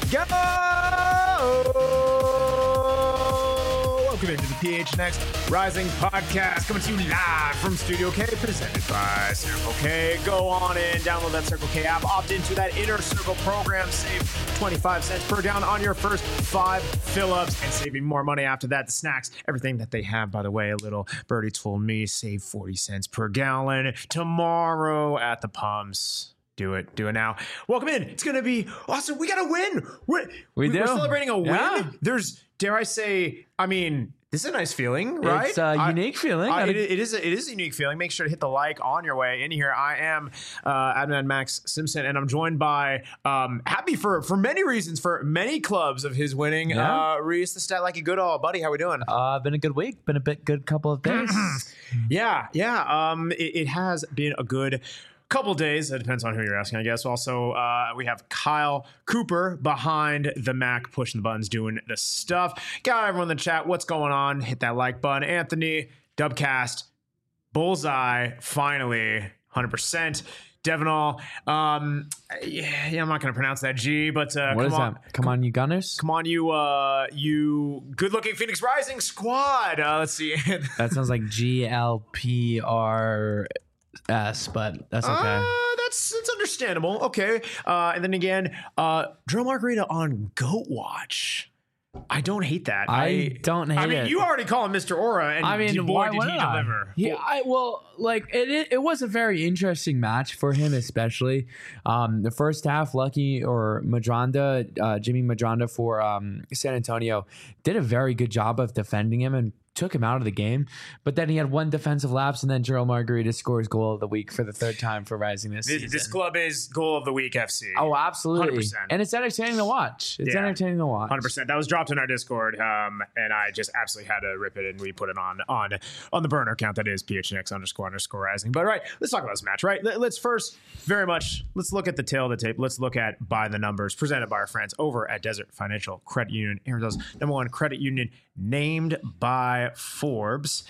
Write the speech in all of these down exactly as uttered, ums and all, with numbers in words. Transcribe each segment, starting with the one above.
go! Welcome into the P H N X Rising Podcast, coming to you live from Studio K, presented by Circle K. Go on in, download that Circle K app, opt into that Inner Circle program, save twenty-five cents per down on your first five fill-ups, and saving more money after that. The snacks, everything that they have, by the way, a little birdie told me, save forty cents per gallon tomorrow at the pumps. Do it. Do it now. Welcome in. It's going to be awesome. We got to win. We're, we do. We're celebrating a win. Yeah. There's, dare I say, I mean, this is a nice feeling, right? It's a unique I, feeling. I, it, it, is a, it is a unique feeling. Make sure to hit the like on your way in here. I am uh, Adnan Max Simpson, and I'm joined by, um, happy for, for many reasons, for many clubs of his winning. Yeah. Uh, Reese the Stat Like a Good All. Buddy, how we doing? Uh, been a good week. Been a bit good couple of days. yeah, yeah. Um, it, it has been a good couple days. It depends on who you're asking, I guess. Also, uh, we have Kyle Cooper behind the Mac, pushing the buttons, doing the stuff. Got everyone in the chat. What's going on? Hit that like button. Anthony, Dubcast, Bullseye, finally, one hundred percent. Devinall, um, yeah, yeah, I'm not going to pronounce that G, but uh, what come is on, that? Come on, you Gunners. Come on, you, uh, you good-looking Phoenix Rising squad. Uh, let's see. That sounds like G L P R S, but that's okay. Uh, that's that's understandable. Okay. Uh, and then again, uh, Drill Margarita on Goat Watch. I don't hate that. I, I don't hate I mean, it. you already call him Mister Aura, and I mean, boy, why did would he I? deliver. Yeah, I well, like it, it. It was a very interesting match for him, especially um, the first half. Lucky or Madronda, uh, Jimmy Madronda for um, San Antonio did a very good job of defending him and took him out of the game. But then he had one defensive lapse, and then Gerald Margarita scores goal of the week for the third time for Rising this, This, season. this club is Goal of the Week F C. Oh, absolutely. one hundred percent. And it's entertaining to watch. It's Yeah. entertaining to watch. one hundred percent. That was dropped in our Discord, um, and I just absolutely had to rip it, and we put it on on on the burner account that is P H N X underscore underscore rising. But right, let's talk about this match, right? Let, let's first very much, let's look at the tail of the tape. Let's look at By the Numbers, presented by our friends over at Desert Financial Credit Union, Arizona's number one credit union, named by Forbes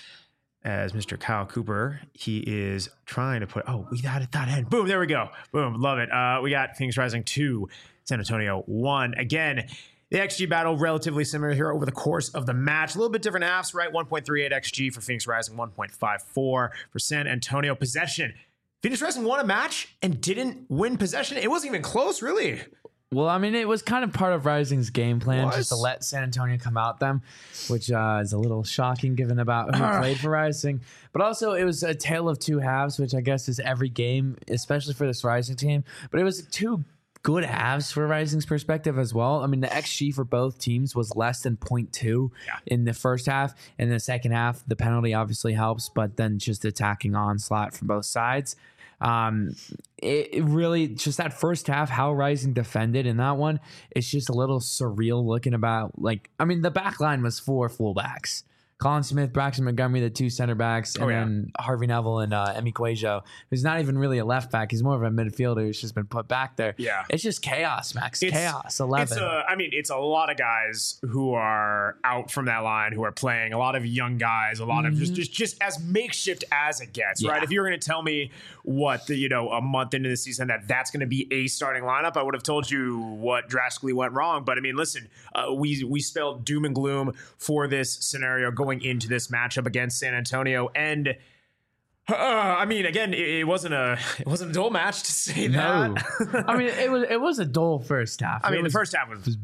as Mister Kyle Cooper. He is trying to put, oh, we got it, that end. Boom, there we go. Boom, love it. Uh, we got Phoenix Rising two, San Antonio one. Again, the X G battle relatively similar here over the course of the match. A little bit different halves, right? one point three eight X G for Phoenix Rising, one point five four for San Antonio. Possession. Phoenix Rising won a match and didn't win possession. It wasn't even close, really. Well, I mean, it was kind of part of Rising's game plan Was? just to let San Antonio come out them, which uh, is a little shocking given about who played for Rising. But also, it was a tale of two halves, which I guess is every game, especially for this Rising team. But it was two good halves for Rising's perspective as well. I mean, the X G for both teams was less than zero point two Yeah. in the first half. In the second half, the penalty obviously helps, but then just attacking onslaught from both sides. Um, it, it really just that first half, how Rising defended in that one, it's just a little surreal looking about. Like, I mean, the back line was four fullbacks. Colin Smith, Braxton Montgomery, the two center backs, and Oh, yeah. then Harvey Neville and uh, Emi Cuejo, who's not even really a left back. He's more of a midfielder who's just been put back there. Yeah. It's just chaos, Max. It's- chaos. eleven. It's a, I mean, it's a lot of guys who are out from that line who are playing. A lot of young guys. A lot of just, just, just as makeshift as it gets. Yeah. Right. If you were going to tell me what the, you know, a month into the season that that's going to be a starting lineup, I would have told you what drastically went wrong. But I mean, listen, uh, we we spelled doom and gloom for this scenario going into this matchup against San Antonio, and Uh, I mean, again, it, it wasn't a it wasn't a dull match to say no. that. I mean, it was it was a dull first half. I It mean, was, the first half was, it was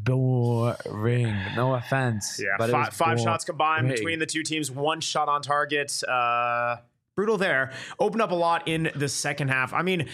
boring. No offense. yeah, but it five, was five shots combined boring. between the two teams, one shot on target. Uh, brutal there. Opened up a lot in the second half. I mean,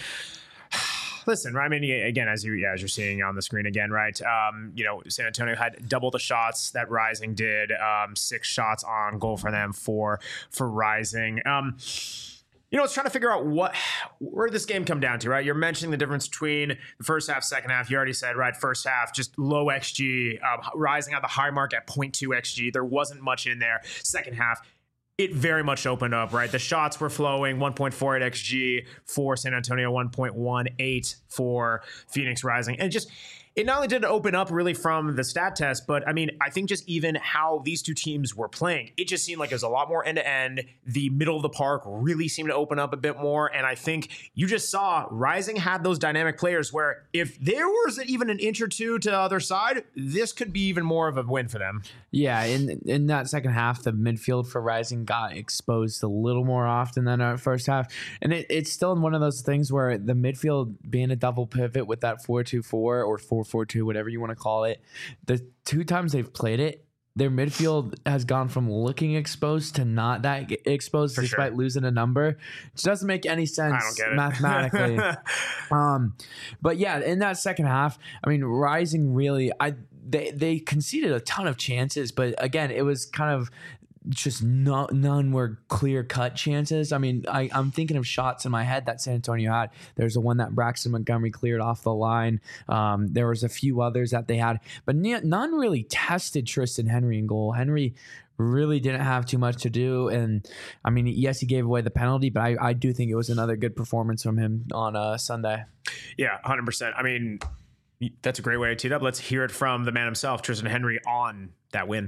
listen, I mean, again, as you yeah, as you're seeing on the screen again, right? Um, you know, San Antonio had double the shots that Rising did. Um, six shots on goal for them, four for Rising. Um, you know, it's trying to figure out what where did this game come down to, right? You're mentioning the difference between the first half, second half. You already said, right, first half, just low X G, um, Rising at the high mark at zero point two X G. There wasn't much in there. Second half, it very much opened up, right? The shots were flowing, one point four eight X G for San Antonio, one point one eight for Phoenix Rising. And just, it not only did it open up really from the stat test, but I mean, I think just even how these two teams were playing, it just seemed like it was a lot more end to end. The middle of the park really seemed to open up a bit more. And I think you just saw Rising had those dynamic players where if there was even an inch or two to the other side, this could be even more of a win for them. Yeah, in in that second half, the midfield for Rising got exposed a little more often than our first half. And it, it's still one of those things where the midfield being a double pivot with that four two four or four four two, whatever you want to call it, the two times they've played it, their midfield has gone from looking exposed to not that exposed for despite sure. losing a number. Which doesn't make any sense I don't get it. mathematically. um, but yeah, in that second half, I mean, Rising really, I they they conceded a ton of chances, but again, it was kind of just no, none were clear cut chances. I mean, I, I'm thinking of shots in my head that San Antonio had. There's the one that Braxton Montgomery cleared off the line. Um, there was a few others that they had, but n- none really tested Tristan Henry in goal. Henry really didn't have too much to do. And I mean, yes, he gave away the penalty, but I, I do think it was another good performance from him on uh, Sunday. Yeah, one hundred percent. I mean, that's a great way to tee it up. Let's hear it from the man himself, Tristan Henry, on that win.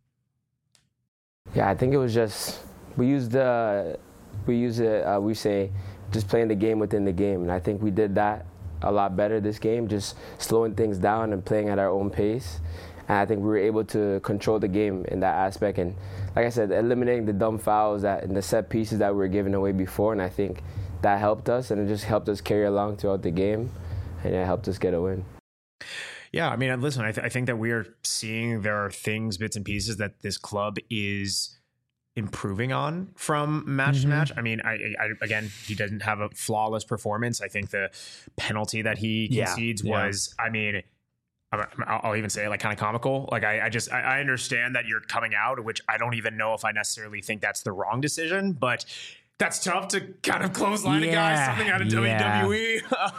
Yeah, I think it was just we used the we use it. Uh, we say just playing the game within the game, and I think we did that a lot better this game. Just slowing things down and playing at our own pace, and I think we were able to control the game in that aspect. And like I said, eliminating the dumb fouls that and the set pieces that we were giving away before, and I think that helped us, and it just helped us carry along throughout the game, and it helped us get a win. Yeah, I mean, listen, I, th- I think that we are seeing there are things, bits and pieces that this club is improving on from match mm-hmm. to match. I mean, I, I again, he doesn't have a flawless performance. I think the penalty that he concedes yeah, was, yeah. I mean, I'll even say like kind of comical. Like I, I just, I, I understand that you're coming out, which I don't even know if I necessarily think that's the wrong decision, but that's tough to kind of clothesline yeah, a guy, something out of yeah. W W E.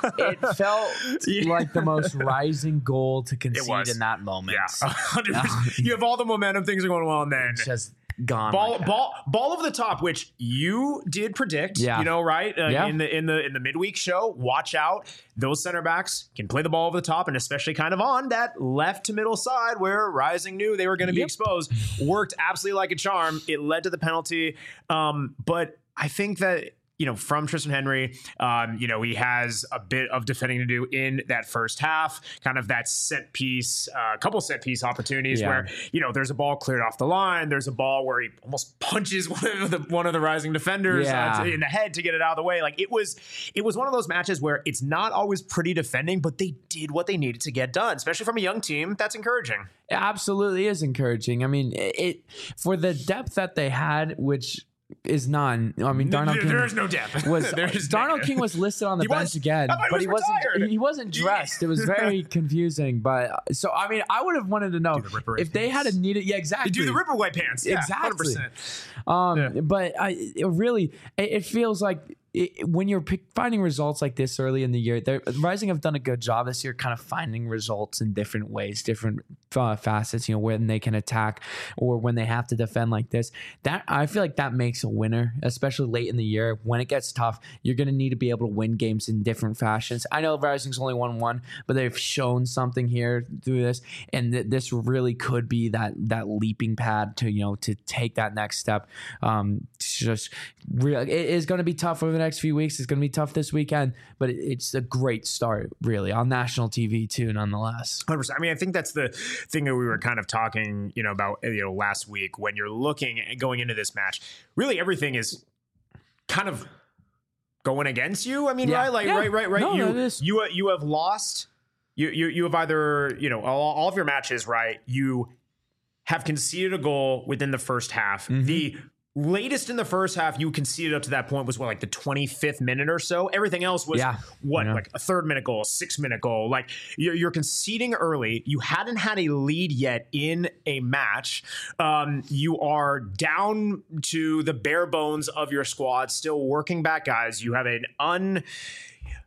It felt yeah. like the most Rising goal to concede in that moment. Yeah, one hundred percent. You have all the momentum, things are going well, and then it's just gone. Ball, like ball, ball over the top, which you did predict. Yeah. You know, right? Uh, yeah. In the in the in the midweek show, watch out. Those center backs can play the ball over the top, and especially kind of on that left to middle side where Rising knew they were going to be yep. exposed. Worked absolutely like a charm. It led to the penalty, um, but. I think that, you know, from Tristan Henry, um, you know, he has a bit of defending to do in that first half, kind of that set piece, a uh, couple set piece opportunities yeah. where, you know, there's a ball cleared off the line. There's a ball where he almost punches one of the, one of the Rising defenders yeah. uh, in the head to get it out of the way. Like it was, it was one of those matches where it's not always pretty defending, but they did what they needed to get done, especially from a young team. That's encouraging. It absolutely is encouraging. I mean, it, it for the depth that they had, which is none. I mean, Darnell there, King there is no depth. Was Darnell King was listed on the he bench was, again, but he, he wasn't. He wasn't dressed. It was very confusing. But so I mean, I would have wanted to know the if they had a needed. Yeah, exactly. They do the Ripper White pants. Yeah, exactly. one hundred percent. Um, yeah. But I it really, it, it feels like. It, when you're pick, finding results like this early in the year, Rising have done a good job this year kind of finding results in different ways, different uh, facets, you know, when they can attack or when they have to defend like this. That I feel like that makes a winner, especially late in the year. When it gets tough, you're going to need to be able to win games in different fashions. I know Rising's only won one, but they've shown something here through this, and th- this really could be that that leaping pad to, you know, to take that next step. Um, just real, it is going to be tough over the next few weeks. It's going to be tough this weekend, but it's a great start, really, on national T V too, nonetheless. one hundred percent. I mean, I think that's the thing that we were kind of talking, you know, about, you know, last week when you're looking at going into this match. Really, everything is kind of going against you. I mean, yeah. right, like, yeah. right, right, right. No, you, you, you have lost. You, you, you have either, you know, all, all of your matches, right? You have conceded a goal within the first half. Mm-hmm. The latest in the first half you conceded up to that point was what, like the twenty-fifth minute or so. Everything else was yeah. what, yeah. like a third minute goal, a six minute goal. Like you're, you're conceding early. You hadn't had a lead yet in a match. Um, you are down to the bare bones of your squad, still working back guys. You have an un.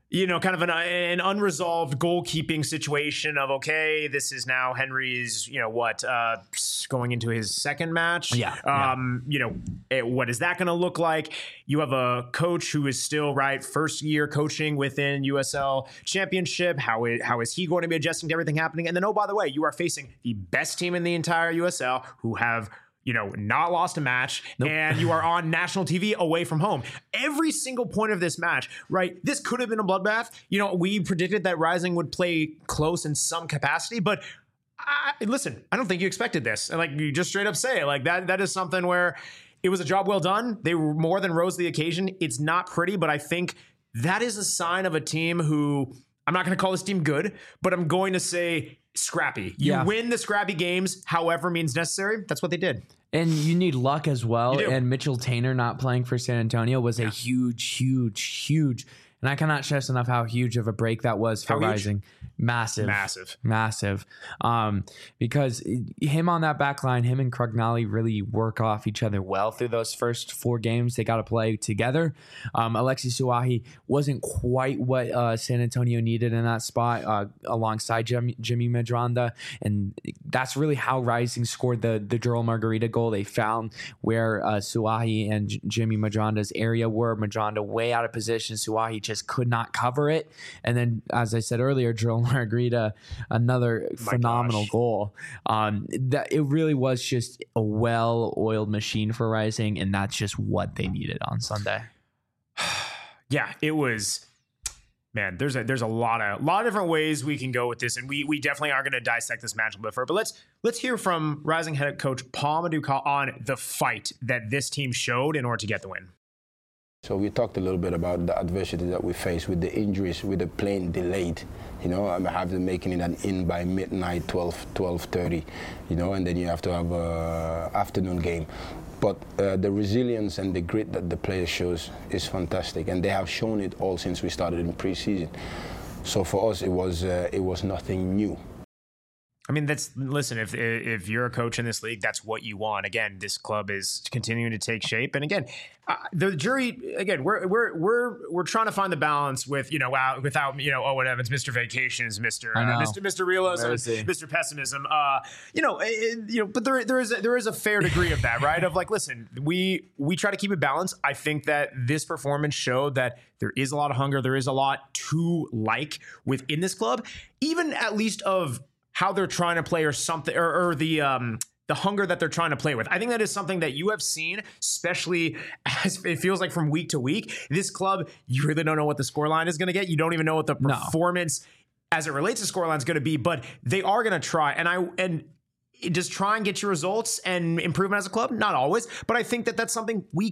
you know, kind of an, an unresolved goalkeeping situation of, okay, this is now Henry's, you know, what, uh, going into his second match. Yeah. Um, yeah. you know, it, what is that going to look like? You have a coach who is still, right, first year coaching within U S L Championship. How is, how is he going to be adjusting to everything happening? And then, oh, by the way, you are facing the best team in the entire U S L who have, you know, not lost a match, nope. and you are on national T V away from home. Every single point of this match, right? This could have been a bloodbath. You know, we predicted that Rising would play close in some capacity, but I, listen, I don't think you expected this. And like you just straight up say, like that, that is something where it was a job well done. They were more than rose to the occasion. It's not pretty, but I think that is a sign of a team who, I'm not going to call this team good, but I'm going to say scrappy. You yeah. win the scrappy games, however means necessary. That's what they did. And you need luck as well. And Mitchell Tainer not playing for San Antonio was yeah. a huge, huge, huge. And I cannot stress enough how huge of a break that was for Rising. Massive. Massive. Massive. Um, because him on that back line, him and Crugnali really work off each other well through those first four games. They got to play together. Um, Alexi Suahi wasn't quite what uh, San Antonio needed in that spot uh, alongside Jim, Jimmy Medranda. And that's really how Rising scored the, the Joel Margarita goal. They found where uh, Suahi and J- Jimmy Medranda's area were. Medranda way out of position. Suahi just could not cover it. And then, as I said earlier, Joel Margarita, another My phenomenal gosh. goal. Um, that it really was just a well-oiled machine for Rising, and that's just what they needed on Sunday. Yeah, it was. Man, there's a there's a lot of lot of different ways we can go with this, and we we definitely are going to dissect this match a bit further. But let's let's hear from Rising head coach Paul Maduka on the fight that this team showed in order to get the win. So we talked a little bit about the adversity that we face with the injuries, with the plane delayed. You know, I have them making it an in by midnight, twelve, twelve thirty, you know, and then you have to have a afternoon game. But uh, the resilience and the grit that the player shows is fantastic, and they have shown it all since we started in preseason. So for us, it was uh, it was nothing new. I mean, that's listen. If if you're a coach in this league, that's what you want. Again, this club is continuing to take shape, and again, uh, the jury. Again, we're we're we're we're trying to find the balance with you know uh, without you know Owen Evans, Mister Vacations, Mister Uh, Mister Mister Realism, Mister Pessimism. Uh, you know, it, you know, but there there is a, there is a fair degree of that, right? Of like, listen, we we try to keep it balanced. I think that this performance showed that there is a lot of hunger, there is a lot to like within this club, even at least of how they're trying to play or something, or, or the um, the hunger that they're trying to play with. I think that is something that you have seen, especially as it feels like from week to week. This club, you really don't know what the scoreline is going to get. You don't even know what the No. performance as it relates to scoreline is going to be, but they are going to try. And I and just try and get your results and improvement as a club. Not always, but I think that that's something we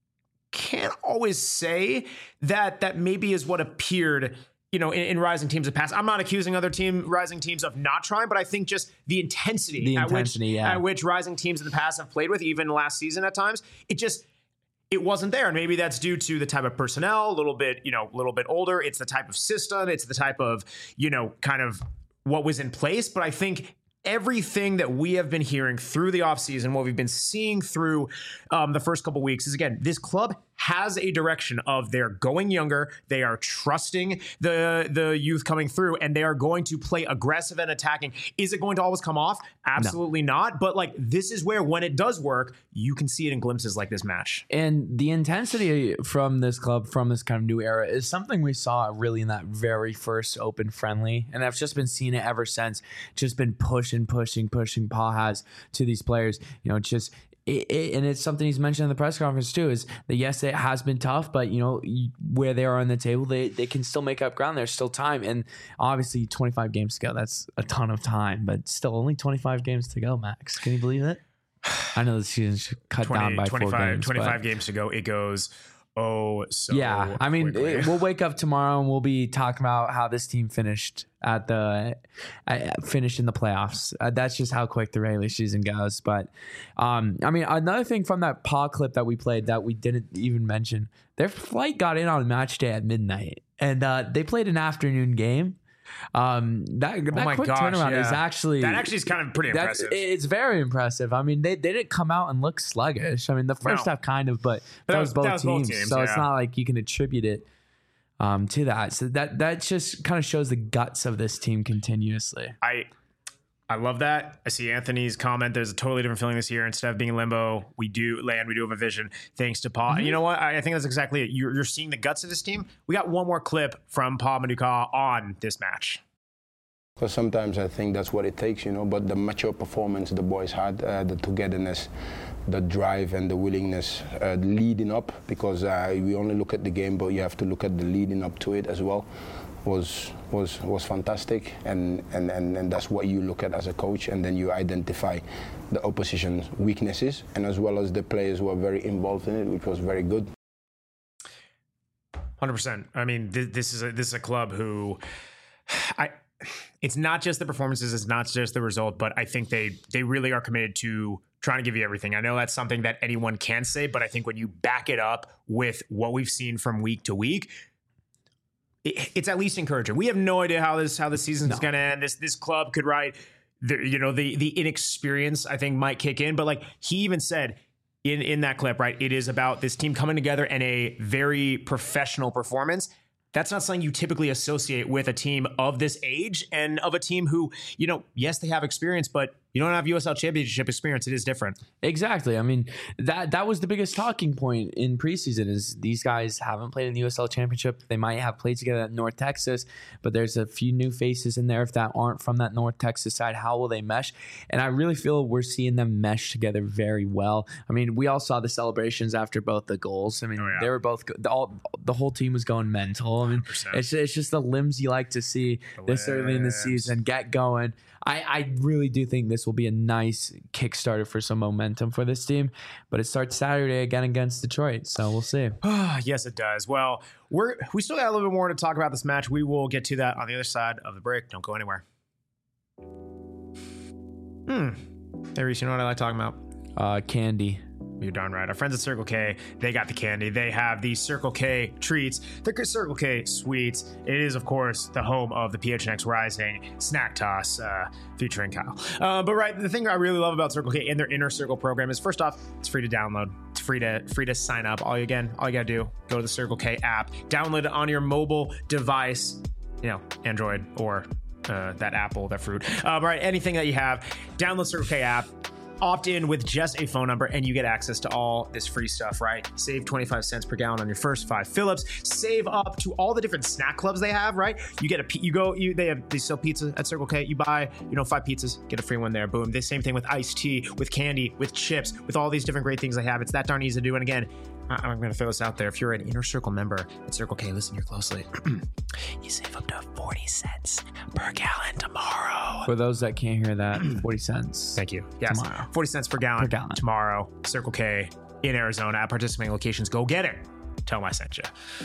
can't always say that that maybe is what appeared, you know, in, in Rising teams of past. I'm not accusing other team Rising teams of not trying, but I think just the intensity, The at, intensity, which, yeah. at which Rising teams in the past have played with, even last season at times, it just, it wasn't there. And maybe that's due to the type of personnel, a little bit, you know, a little bit older. It's the type of system. It's the type of, you know, kind of what was in place. But I think everything that we have been hearing through the offseason, what we've been seeing through um, the first couple weeks is, again, this club has a direction of they're going younger, they are trusting the the youth coming through, and they are going to play aggressive and attacking. Is it going to always come off? Absolutely no. not. But like, this is where, when it does work, you can see it in glimpses like this match. And the intensity from this club, from this kind of new era, is something we saw really in that very first open friendly. And I've just been seeing it ever since. Just been pushing, pushing, pushing Paul has to these players. You know, just It, it, and it's something he's mentioned in the press conference too, is that yes, it has been tough, but you know, where they are on the table, they, they can still make up ground. There's still time. And obviously twenty-five games to go, that's a ton of time, but still only twenty-five games to go, Max. Can you believe it? I know the season's cut twenty, down by four games. twenty-five games to go. It goes, oh, so yeah. I mean, it, we'll wake up tomorrow and we'll be talking about how this team finished at the uh, finished in the playoffs. Uh, that's just how quick the regular season goes. But um, I mean, another thing from that paw clip that we played that we didn't even mention, their flight got in on match day at midnight, and uh, they played an afternoon game. Um, that that oh my quick gosh, turnaround yeah. is actually that actually is kind of pretty impressive. It's very impressive. I mean, they, they didn't come out and look sluggish. I mean, the first No. half kind of, but, But that, that was was- both that was both teams, teams, so it's yeah. not like you can attribute it. um, to that. So that that just kind of shows the guts of this team continuously. I I love that. I see Anthony's comment. There's a totally different feeling this year. Instead of being in limbo, we do land. We do have a vision. Thanks to Paul. Mm-hmm. You know what? I, I think that's exactly it. You're, you're seeing the guts of this team. We got one more clip from Paul Maduka on this match. Because sometimes I think that's what it takes, you know. But the mature performance the boys had, uh, the togetherness, the drive, and the willingness uh, leading up. Because uh, we only look at the game, but you have to look at the leading up to it as well. was was was fantastic, and, and, and, and that's what you look at as a coach, and then you identify the opposition's weaknesses, and as well as the players who are very involved in it, which was very good. one hundred percent. I mean, th- this is a, this is a club who, I, it's not just the performances, it's not just the result, but I think they they really are committed to trying to give you everything. I know that's something that anyone can say, but I think when you back it up with what we've seen from week to week, it's at least encouraging. We have no idea how this how the season is no. going to end. This this club could ride, the, you know, the the inexperience I think might kick in. But like he even said in in that clip, right? It is about this team coming together and a very professional performance. That's not something you typically associate with a team of this age and of a team who, you know, yes, they have experience, but you don't have U S L Championship experience. It is different. Exactly. I mean, that that was the biggest talking point in preseason is these guys haven't played in the U S L Championship. They might have played together at North Texas, but there's a few new faces in there. If that aren't from that North Texas side, how will they mesh? And I really feel we're seeing them mesh together very well. I mean, we all saw the celebrations after both the goals. I mean, oh, yeah. they were both, the, all, the whole team was going mental. I mean, it's, it's just the limbs you like to see the this limbs. Early in the season. Get going. I, I really do think this will be a nice Kickstarter for some momentum for this team, but it starts Saturday again against Detroit, so we'll see. Yes, it does. Well, we're we still got a little bit more to talk about this match. We will get to that on the other side of the break. Don't go anywhere. Hmm. Hey, Reese, you know what I like talking about? Uh, candy. You're darn right. Our friends at Circle K, they got the candy. They have the Circle K treats, the Circle K sweets. It is, of course, the home of the P H N X Rising Snack Toss uh, featuring Kyle. Uh, but right, the thing I really love about Circle K and their Inner Circle program is, first off, it's free to download. It's free to free to sign up. All you again, all you gotta do, go to the Circle K app, download it on your mobile device, you know, Android or uh, that Apple, that fruit. Uh, right, anything that you have, download Circle K app. Opt in with just a phone number and you get access to all this free stuff, right? Save twenty-five cents per gallon on your first five fill-ups. Save up to all the different snack clubs they have, right? You get a, you go, you they have, they sell pizza at Circle K. You buy, you know, five pizzas, get a free one there. Boom. The same thing with iced tea, with candy, with chips, with all these different great things they have. It's that darn easy to do. And again, I'm going to throw this out there. If you're an Inner Circle member at Circle K, listen here closely. You save up to forty cents per gallon tomorrow. For those that can't hear that, forty cents. Thank you. Yes. Tomorrow. forty cents per gallon, per gallon tomorrow. Circle K in Arizona at participating locations. Go get it. Tell them I sent you.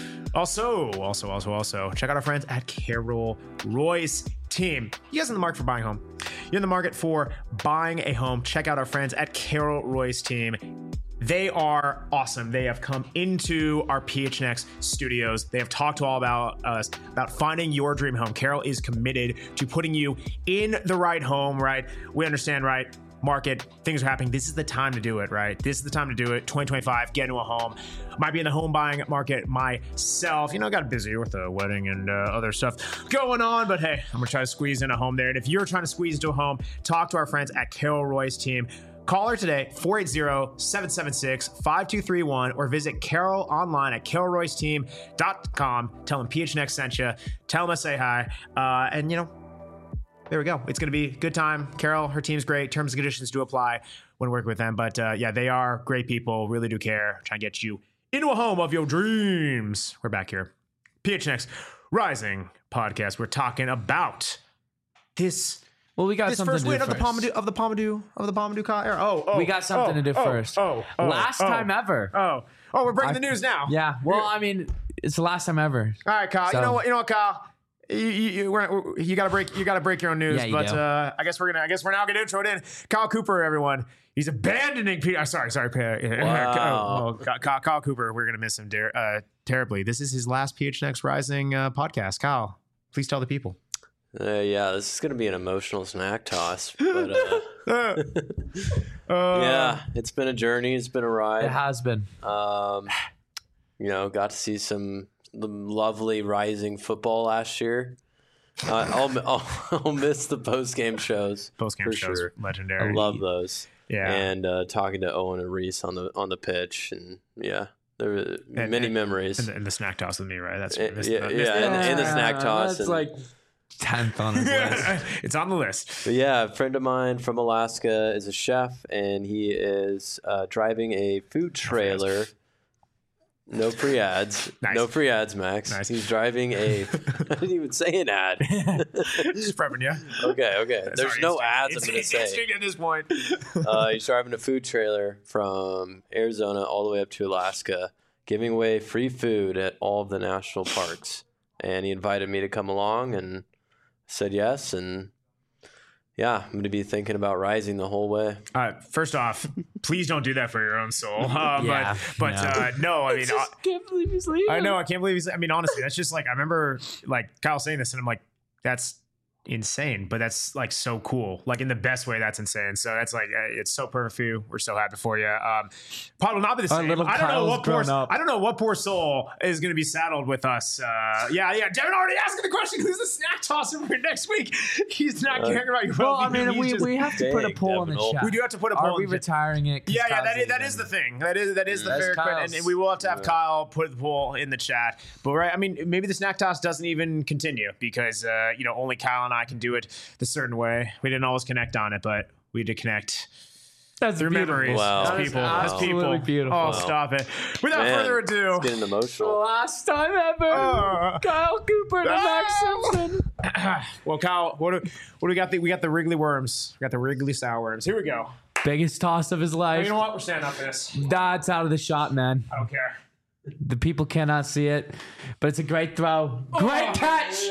Also, also, also, also, check out our friends at Carol Royce Team. You guys in the market for buying a home? You're in the market for buying a home? Check out our friends at Carol Royce Team. They are awesome. They have come into our P H N X studios. They have talked all about us, about finding your dream home. Carol is committed to putting you in the right home, right? We understand, right? Market, things are happening. This is the time to do it, right? This is the time to do it. twenty twenty-five, get into a home. Might be in the home buying market myself. You know, I got busy with the wedding and uh, other stuff going on, but hey, I'm gonna try to squeeze in a home there. And if you're trying to squeeze into a home, talk to our friends at Carol Royce Team. Call her today, four eight zero, seven seven six, five two three one, or visit Carol online at carol royce team dot com. Tell them P H N X sent you. Tell them I say hi. Uh, and, you know, there we go. It's going to be a good time. Carol, her team's great. Terms and conditions do apply when working with them. But, uh, yeah, they are great people. Really do care. Trying to get you into a home of your dreams. We're back here. P H N X Rising podcast. We're talking about this... Well, we got this something first to do win first. of the Pompidou of the Pompidou of the Pompidou era. Oh, oh, we got something oh, to do oh, first. Oh, oh, last oh, time ever. Oh, oh, we're breaking I, the news now. Yeah. Well, I mean, it's the last time ever. All right, Kyle. So, you know what? You know what, Kyle. You, you, you, we're, you gotta break. You gotta break your own news. Yeah, you but do. Uh, I guess we're gonna. I guess we're now gonna intro it in. Kyle Cooper, everyone. He's abandoning Peter. Uh, sorry, sorry. Wow. Oh, Kyle, Kyle Cooper. We're gonna miss him der- uh, terribly. This is his last P H N X Rising uh, podcast. Kyle, please tell the people. Uh, yeah, this is going to be an emotional snack toss. But, uh, uh, yeah, it's been a journey. It's been a ride. It has been. Um, you know, got to see some the lovely Rising football last year. Uh, I'll, I'll I'll miss the post game shows. Post game for shows, sure. legendary. I love those. Yeah. And uh, talking to Owen and Reese on the on the pitch, and yeah, there were And- many and- memories. And the, and the snack toss with me, right? That's Uh, missed- yeah, missed- yeah, and, and the snack toss. That's and, like tenth on his list. it's on the list. But yeah, a friend of mine from Alaska is a chef, and he is uh, driving a food trailer. No free ads. Nice. No free ads, Max. Nice. He's driving a. I didn't even say an ad. Just prepping you. Okay, okay. There's Sorry, no it's- ads. it's- I'm gonna it's say. instinct at this point. Uh, he's driving a food trailer from Arizona all the way up to Alaska, giving away free food at all of the national parks. And he invited me to come along, and said yes. And yeah, I'm going to be thinking about Rising the whole way. Uh, first off, please don't do that for your own soul. Uh, Yeah, but but no. uh, no, I mean, uh, can't believe he's leaving. I know, I can't believe he's. I mean, honestly, that's just like I remember like Kyle saying this, and I'm like, that's insane, but that's like so cool. Like in the best way, that's insane. So that's like uh, it's so perfect for you. We're so happy for you. Um, Pod will not be the Our same. little I don't know Kyle's what poor. grown up. I don't know what poor soul is going to be saddled with us. Uh, yeah, yeah. Devin already asking the question: who's the snack tosser for next week? He's not Uh, caring about your Well, I well-being. mean, He's we, just- we have to put a Dang, poll in the Devin. chat. we do have to put a Are poll. we in the- retiring it? 'cause Yeah, yeah, Kyle's that is that leaving? is the thing. That is that is the That's fair question, and, Kyle's. and we will have to have Kyle put the poll in the chat. But right, I mean, maybe the snack toss doesn't even continue because uh, you know only Kyle and I can do it the certain way. We didn't always connect on it, but we did connect That's through beautiful. memories Wow. as That is people. As absolutely people. beautiful. Oh, Wow. stop it! Without Man, further ado, It's getting emotional. Last time ever. Uh, Kyle Cooper to Max Ah! Simpson. well, Kyle, what do, what do we got? The, we got the Wrigley worms. We got the Wrigley sour worms. Here we go. Biggest toss of his life. You know what? We're standing up for this. That's out of the shot, man. I don't care. The people cannot see it, but it's a great throw. Great Oh, catch.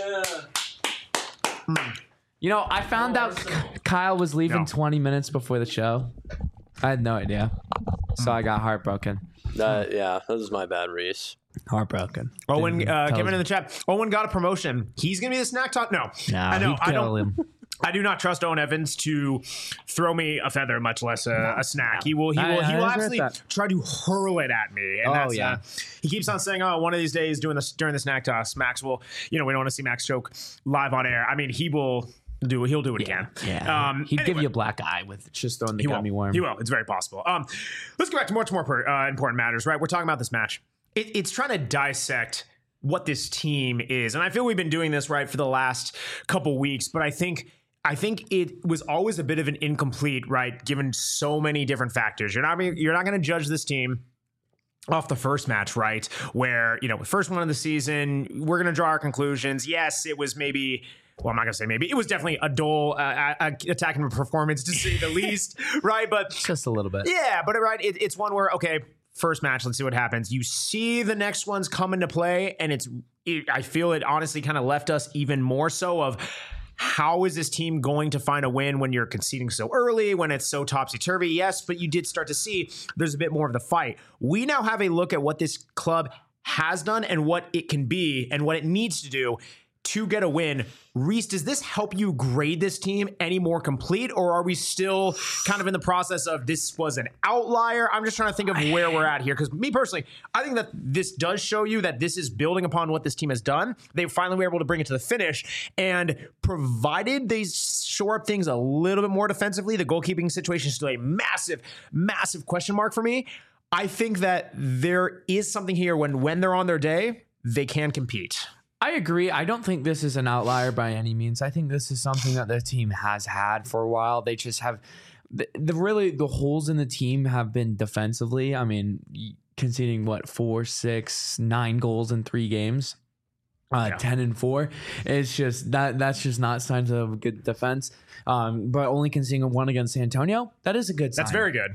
You know, I found out K- Kyle was leaving No. twenty minutes before the show. I had no idea. So I got heartbroken. That, yeah, that was my bad, Reese. Heartbroken. Owen, Didn't uh, tell Kevin us- in the chat. Owen got a promotion. He's gonna be the snack talk. No, Nah, I know. he'd I kill don't. him. I do not trust Owen Evans to throw me a feather, much less a, a snack. He will. He I- will. He I will agree actually with that. try to hurl it at me. And Oh, that's, yeah. Uh, he keeps on saying, "Oh, one of these days, doing this during the snack toss, Max will. You know, we don't want to see Max choke live on air. I mean, he will do. He'll do it again. Yeah. Um, He'd give anyway. you a black eye with just throwing the He will. gummy worm. He will. It's very possible. Um, let's go back to much more per, uh, important matters. Right, we're talking about this match. It, it's trying to dissect what this team is, and I feel we've been doing this right for the last couple weeks. But I think. I think it was always a bit of an incomplete, right? Given so many different factors, you're not you're not going to judge this team off the first match, right? Where you know, first one of the season, we're going to draw our conclusions. Yes, it was maybe. Well, I'm not gonna say maybe. It was definitely a dull uh, uh, attacking performance, to say the least, right? But Just a little bit. yeah, but right, it, it's one where okay, first match, let's see what happens. You see the next ones come into play, and it's. It, I feel it honestly kind of left us even more so of. How is this team going to find a win when you're conceding so early, when it's so topsy-turvy? Yes, but you did start to see there's a bit more of the fight. We now have a look at what this club has done and what it can be and what it needs to do to get a win. Reese, does this help you grade this team any more complete, or are we still kind of in the process of this was an outlier? I'm just trying to think of where we're at here, because me personally, I think that this does show you that this is building upon what this team has done. They finally were able to bring it to the finish, and provided they shore up things a little bit more defensively, the goalkeeping situation is still a massive, massive question mark for me. I think that there is something here when when they're on their day, they can compete. I agree. I don't think this is an outlier by any means. I think this is something that the team has had for a while. They just have the, the really the holes in the team have been defensively. I mean, conceding what four, six, nine goals in three games, uh, Yeah. ten and four. It's just that that's just not signs of good defense. Um, but only conceding one against San Antonio, that is a good sign. That's very good.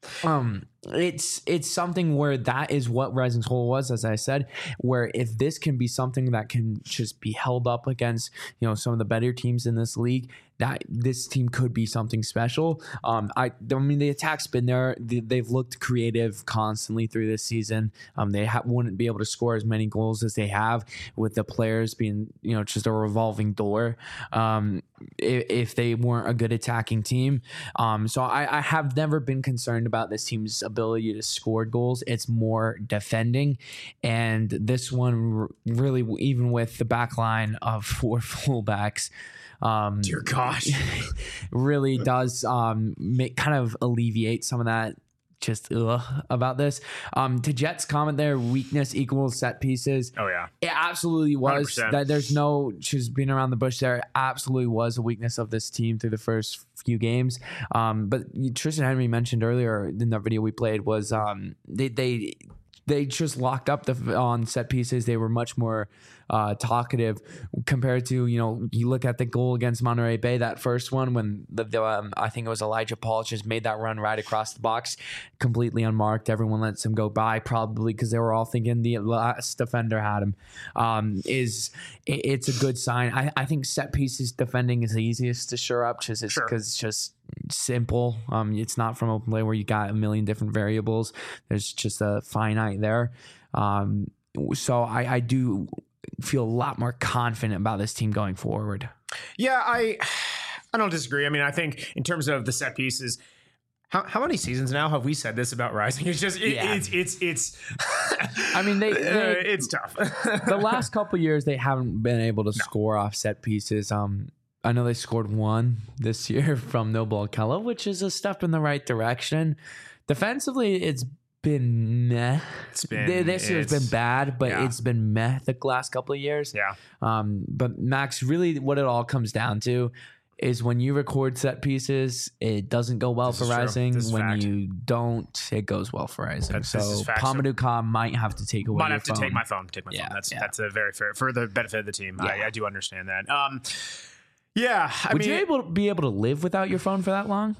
Um, it's it's something where that is what Rising's Hole was, as I said, where if this can be something that can just be held up against, you know, some of the better teams in this league, that this team could be something special. Um, I, I mean, the attack's been there. They, they've looked creative constantly through this season. Um, they ha- wouldn't be able to score as many goals as they have with the players being, you know, just a revolving door. Um, if, if they weren't a good attacking team. Um, so I, I have never been concerned about this team's ability ability to score goals. It's more defending. And this one r- really, even with the back line of four fullbacks, um, Dear gosh. really does um, make, kind of alleviate some of that just ugh, about this. Um, to Jet's comment there, weakness equals set pieces. Oh, yeah. It absolutely was. one hundred percent. That there's no, she's been around the bush there. It absolutely was a weakness of this team through the first few games. Um, but Tristan Henry mentioned earlier in the video we played was um, they they they just locked up the on set pieces. They were much more uh, talkative compared to, you know, you look at the goal against Monterey Bay, that first one when the, the um, I think it was Elijah Paul just made that run right across the box, completely unmarked. Everyone lets him go by, probably because they were all thinking the last defender had him. Um, is it, it's a good sign. I, I think set pieces defending is the easiest to shore up because it's, Sure. it's just simple. Um, it's not from open play where you got a million different variables. There's just a finite there. Um, so I, I do feel a lot more confident about this team going forward. Yeah, I I don't disagree. I mean, I think in terms of the set pieces, how, how many seasons now have we said this about Rising? It's just it, Yeah. it's it's it's. I mean, they, they uh, it's tough. the last couple of years they haven't been able to score off set pieces. Um, I know they scored one this year from Noble Akella, which is a step in the right direction. Defensively, it's been meh. It's been Th- this year's it's- been bad, but yeah. it's been meh the last couple of years. Yeah. Um, but Max, really, what it all comes down to is when you record set pieces, it doesn't go well This for is true. Rising. This is When fact. you don't, it goes well for Rising. That's- so this is fact. So- Pamadou Ka might have to take away Might your have to phone. take my phone. Take my Yeah, phone. That's yeah. that's a very fair for the benefit of the team. I, Yeah. I do understand that. Um, yeah. I Would mean, you able to be able to live without your phone for that long?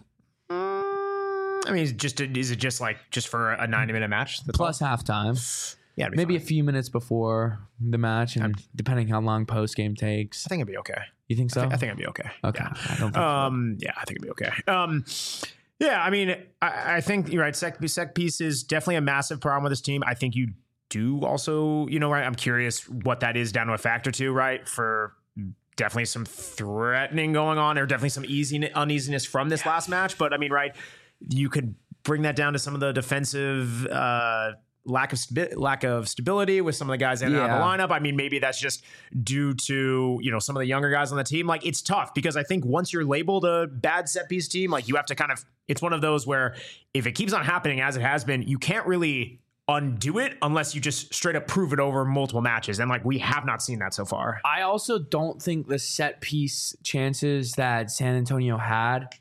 I mean, is it just is it just like just for a ninety minute match? That's Plus all? halftime. yeah, it'd be Maybe fine. a few minutes before the match, and depending how long post game takes. I think it'd be okay. You think so? I think it'd be okay. Okay. Yeah. I don't think Um, yeah, I think it'd be okay. Um, yeah, I mean, I, I think you're right. Sec, sec piece is definitely a massive problem with this team. I think you do also, you know, right. I'm curious what that is down to a factor too, right? For definitely some threatening going on, or definitely some easy uneasiness from this last match. But I mean, right, you could bring that down to some of the defensive uh, lack of stabi- lack of stability with some of the guys in and out of the Yeah. lineup. I mean, maybe that's just due to, you know, some of the younger guys on the team. Like, it's tough because I think once you're labeled a bad set piece team, like you have to kind of, it's one of those where if it keeps on happening as it has been, you can't really undo it unless you just straight up prove it over multiple matches. And like, we have not seen that so far. I also don't think the set piece chances that San Antonio had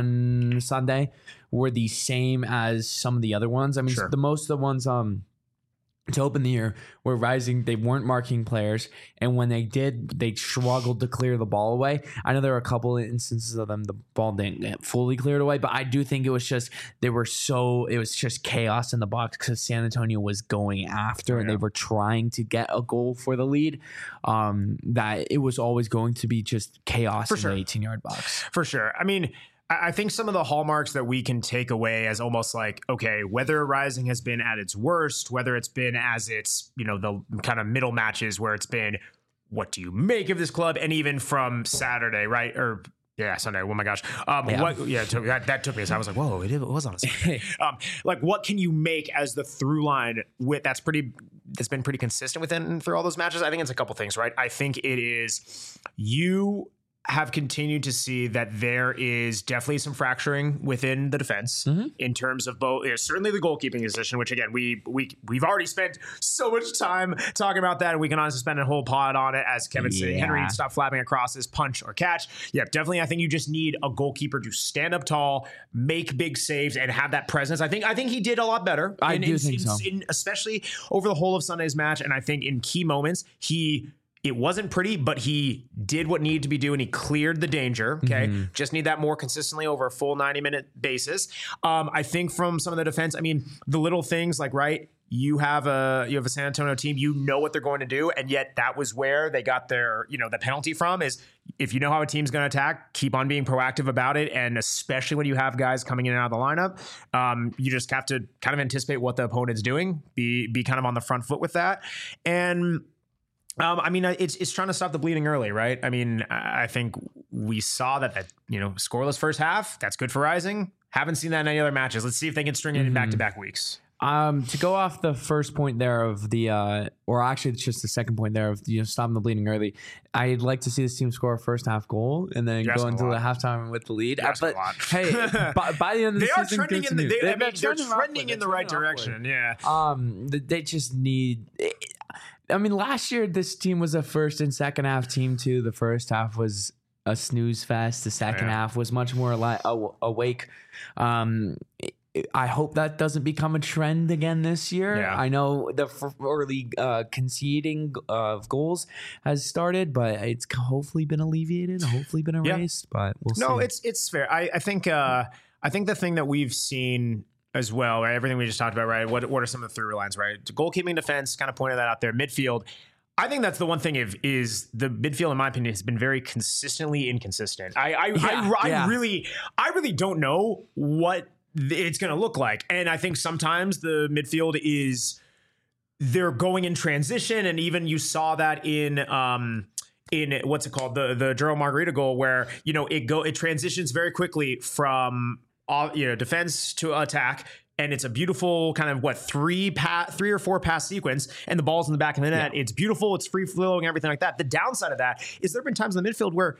on Sunday were the same as some of the other ones. I mean, Sure. the most of the ones um to open the year were Rising. They weren't marking players, and when they did, they struggled to clear the ball away. I know there were a couple of instances of them the ball didn't get fully cleared away, but I do think it was just they were so it was just chaos in the box because San Antonio was going after and Yeah. they were trying to get a goal for the lead. Um, that it was always going to be just chaos For in sure. the eighteen yard box. For sure. I mean, I I think some of the hallmarks that we can take away as almost like, okay, whether Rising has been at its worst, whether it's been as its, you know, the kind of middle matches where it's been, what do you make of this club? And even from Saturday, right? Or yeah, Sunday. Oh my gosh. Um, Yeah. what, yeah, to, that, that took me. So I was like, whoa, it, it was on a Sunday. um, like, what can you make as the through line with that's pretty, that's been pretty consistent within through all those matches? I think it's a couple things, right? I think it is you have continued to see that there is definitely some fracturing within the defense Mm-hmm. in terms of both, yeah, certainly the goalkeeping position, which again, we, we, we've already spent so much time talking about that. And we can honestly spend a whole pod on it as Kevin said, Yeah. Henry stop flapping across his punch or catch. Yeah, definitely. I think you just need a goalkeeper to stand up tall, make big saves and have that presence. I think, I think he did a lot better. I in, do in, think in, so. in- especially over the whole of Sunday's match. And I think in key moments, he, it wasn't pretty, but he did what needed to be done. He cleared the danger. Okay. Mm-hmm. Just need that more consistently over a full ninety minute basis. Um, I think from some of the defense, I mean, the little things like, right, you have a, you have a San Antonio team, you know what they're going to do. And yet that was where they got their, you know, the penalty from is if you know how a team's going to attack, keep on being proactive about it. And especially when you have guys coming in and out of the lineup, um, you just have to kind of anticipate what the opponent's doing, be, be kind of on the front foot with that. And, Um, I mean, it's it's trying to stop the bleeding early, right? I mean, I I think we saw that that you know scoreless first half. That's good for Rising. Haven't seen that in any other matches. Let's see if they can string it in back-to-back weeks. Um, to go off the first point there of the, uh, or actually it's just the second point there of, you know, stopping the bleeding early. I'd like to see this team score a first half goal and then You're go asking into a the lot. halftime with the lead. You're Uh, asking but a lot. hey, by, by the end of the They are season, trending in the, continue. they, I They've mean, been they're trending trending upward. in the They're right trending upward. direction. Yeah. Um, th- they just need. I mean, last year this team was a first and second half team too. The first half was a snooze fest. The second Yeah. half was much more like aw- awake. Um, I hope that doesn't become a trend again this year. Yeah. I know the f- early uh, conceding of goals has started, but it's hopefully been alleviated. Hopefully been Yeah. erased, but we'll No, see. it's it's fair. I, I think uh, I think the thing that we've seen as well, right? Everything we just talked about, right? What what are some of the through lines, right? Goalkeeping, defense, kind of pointed that out there. Midfield. I think that's the one thing. If is the midfield, in my opinion, has been very consistently inconsistent. I I, Yeah, I, I yeah. really I really don't know what it's going to look like, and I think sometimes the midfield is they're going in transition, and even you saw that in um in what's it called the the Gerald Margarita goal, where you know it go it transitions very quickly from uh, you know defense to attack. And it's a beautiful kind of what three pass, three or four pass sequence, and the ball's in the back of the net. It's beautiful, it's free flowing, everything like that. The downside of that is there have been times in the midfield where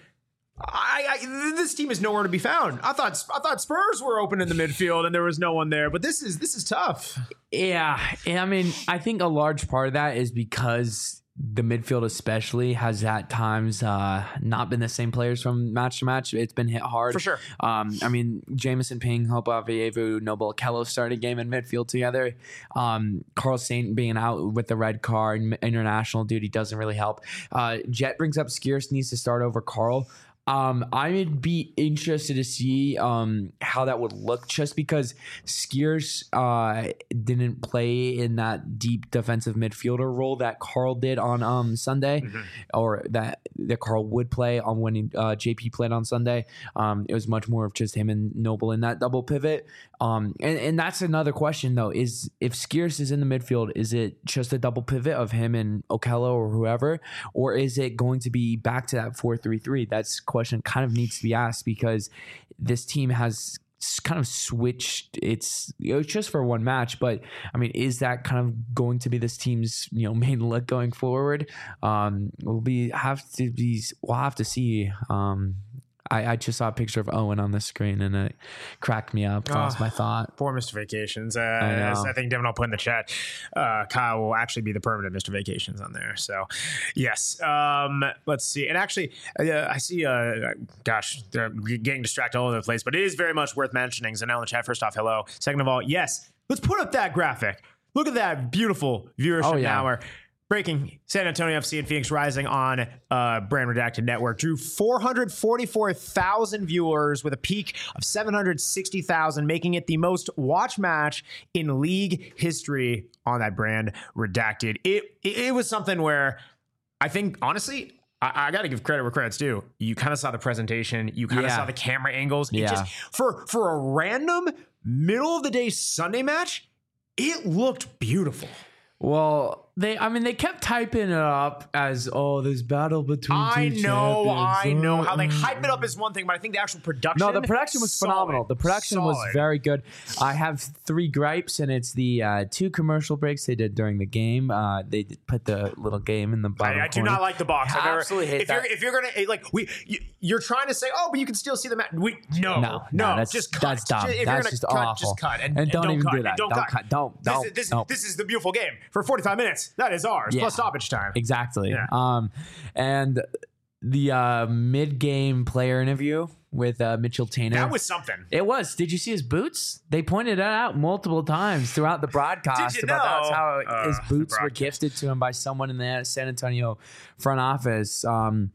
I, I this team is nowhere to be found. I thought I thought Spurs were open in the midfield and there was no one there, but this is this is tough. Yeah, and I mean, I think a large part of that is because the midfield especially has at times uh, not been the same players from match to match. It's been hit hard. For sure. Um, I mean, Jamison Ping, Hopa Vievu, Noble Kello started a game in midfield together. Um, Carl Saint being out with the red card, international duty doesn't really help. Uh, Jet brings up Skiers needs to start over Carl. Um, I would be interested to see um, how that would look, just because Skiers uh, didn't play in that deep defensive midfielder role that Carl did on um, Sunday, mm-hmm. or that that Carl would play on when uh, J P played on Sunday. Um, it was much more of just him and Noble in that double pivot. Um, and, and that's another question though: is if Skiers is in the midfield, is it just a double pivot of him and Okello or whoever, or is it going to be back to that four three three? That's question kind of needs to be asked, because this team has kind of switched its, you know, just for one match, but I mean, is that kind of going to be this team's, you know, main look going forward? Um, we'll be have to be we'll have to see. Um, I, I just saw a picture of Owen on the screen and it cracked me up. Lost Oh, my thought. Poor Mister Vacations. Uh, I know. as I think Devin will put in the chat, uh, Kyle will actually be the permanent Mister Vacations on there. So, yes. Um, let's see. And actually, uh, I see, uh, gosh, they're getting distracted all over the place, but it is very much worth mentioning. Zanel in the chat, first off, hello. Second of all, yes, let's put up that graphic. Look at that beautiful viewership Oh, yeah. now. We're breaking San Antonio F C and Phoenix Rising on uh, Brand Redacted Network drew four hundred forty-four thousand viewers with a peak of seven hundred sixty thousand, making it the most watched match in league history on that Brand Redacted. It it, it was something where I think, honestly, I, I got to give credit where credit's due. You kind of saw the presentation. You kind of Yeah. saw the camera angles. It Yeah. just for for a random middle of the day Sunday match, it looked beautiful. Well, they, I mean, they kept typing it up as, oh, this battle between I two know, champions. I know. How they Uh, hype it up is one thing, but I think the actual production. No, the production was solid, phenomenal. The production was solid. very good. I have three gripes, and it's the uh, two commercial breaks they did during the game. Uh, they did put the little game in the bottom I, I do corner. not like the box. I I've never, absolutely hate if you're that. if you're gonna eh, like we you, you're trying to say, oh, but you can still see the match. We no No, no, no, that's- just cut. that's dumb. If you're That's gonna just cut, awful. just cut and, And don't even cut, do and that. Don't, Don't cut. cut. Don't- This, don't- is, this, don't. this is the beautiful game for forty-five minutes. That is ours Yeah. plus stoppage time. Exactly. Yeah. Um, and the uh, mid-game player interview with uh, Mitchell Tainer. That was something. It was. Did you see his boots? They pointed that out multiple times throughout the broadcast. Did you about that's know? how Uh, his the boots were broadcast. gifted to him by someone in the San Antonio front office. Um,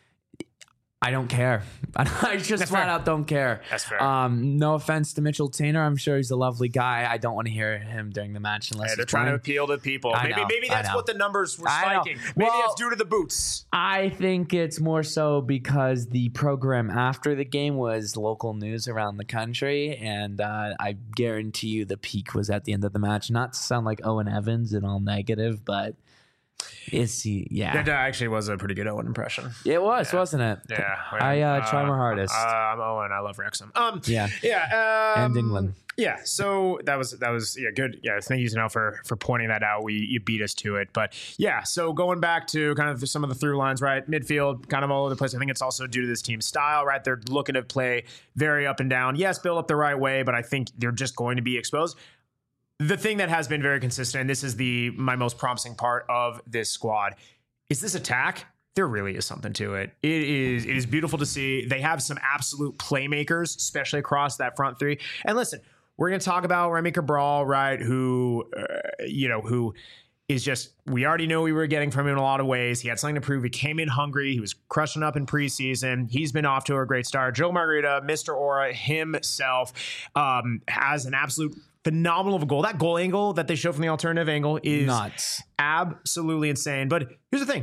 I don't care. I just That's flat fair. out don't care. That's fair. Um, no offense to Mitchell Tainer. I'm sure he's a lovely guy. I don't want to hear him during the match unless Hey, they're he's trying to playing. appeal to people. I Maybe know, maybe I that's know. what the numbers were I know. spiking. Maybe Well- it's due to the boots. I think it's more so because the program after the game was local news around the country, and uh, I guarantee you the peak was at the end of the match. Not to sound like Owen Evans and all negative, but Is he? Yeah. That actually was a pretty good Owen impression. It was, Yeah. wasn't it? Yeah. I uh, try my hardest. Uh, I'm Owen. I love Wrexham. Um, Yeah. Yeah. Um, And England. Yeah. So that was that was yeah good. Yeah. Thank you, Zanel, for for pointing that out. We you beat us to it, but yeah. So going back to kind of some of the through lines, right? Midfield, kind of all over the place. I think it's also due to this team's style, right? They're looking to play very up and down. Yes, build up the right way, but I think they're just going to be exposed. The thing that has been very consistent, and this is the my most promising part of this squad, is this attack. There really is something to it. It is it is beautiful to see. They have some absolute playmakers, especially across that front three. And listen, we're going to talk about Remy Cabral, right? Who, uh, you know, who is just, we already know we were getting from him in a lot of ways. He had something to prove. He came in hungry. He was crushing up in preseason. He's been off to a great start. Joe Margarita, Mister Aura himself, um, has an absolute phenomenal of a goal. That goal angle that they show from the alternative angle is Nuts. absolutely insane. But here's the thing,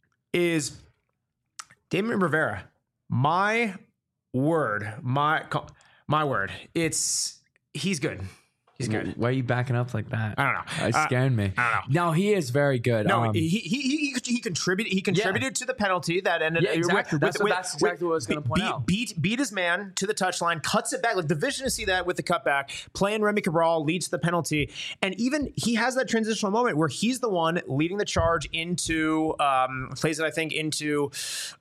is Damon Rivera, my word, my my word, it's, he's good. He's good. Why are you backing up like that? I don't know. It Uh, scared me. I don't know. No, he is very good. No, Um, he, he he he contributed. He contributed to the penalty that ended. Yeah, exactly. That's what- that's exactly what I was gonna point beat, out. Beat beat his man to the touchline, cuts it back. Like the vision to see that with the cutback, playing Remy Cabral leads to the penalty, and even he has that transitional moment where he's the one leading the charge into um, plays it I think into.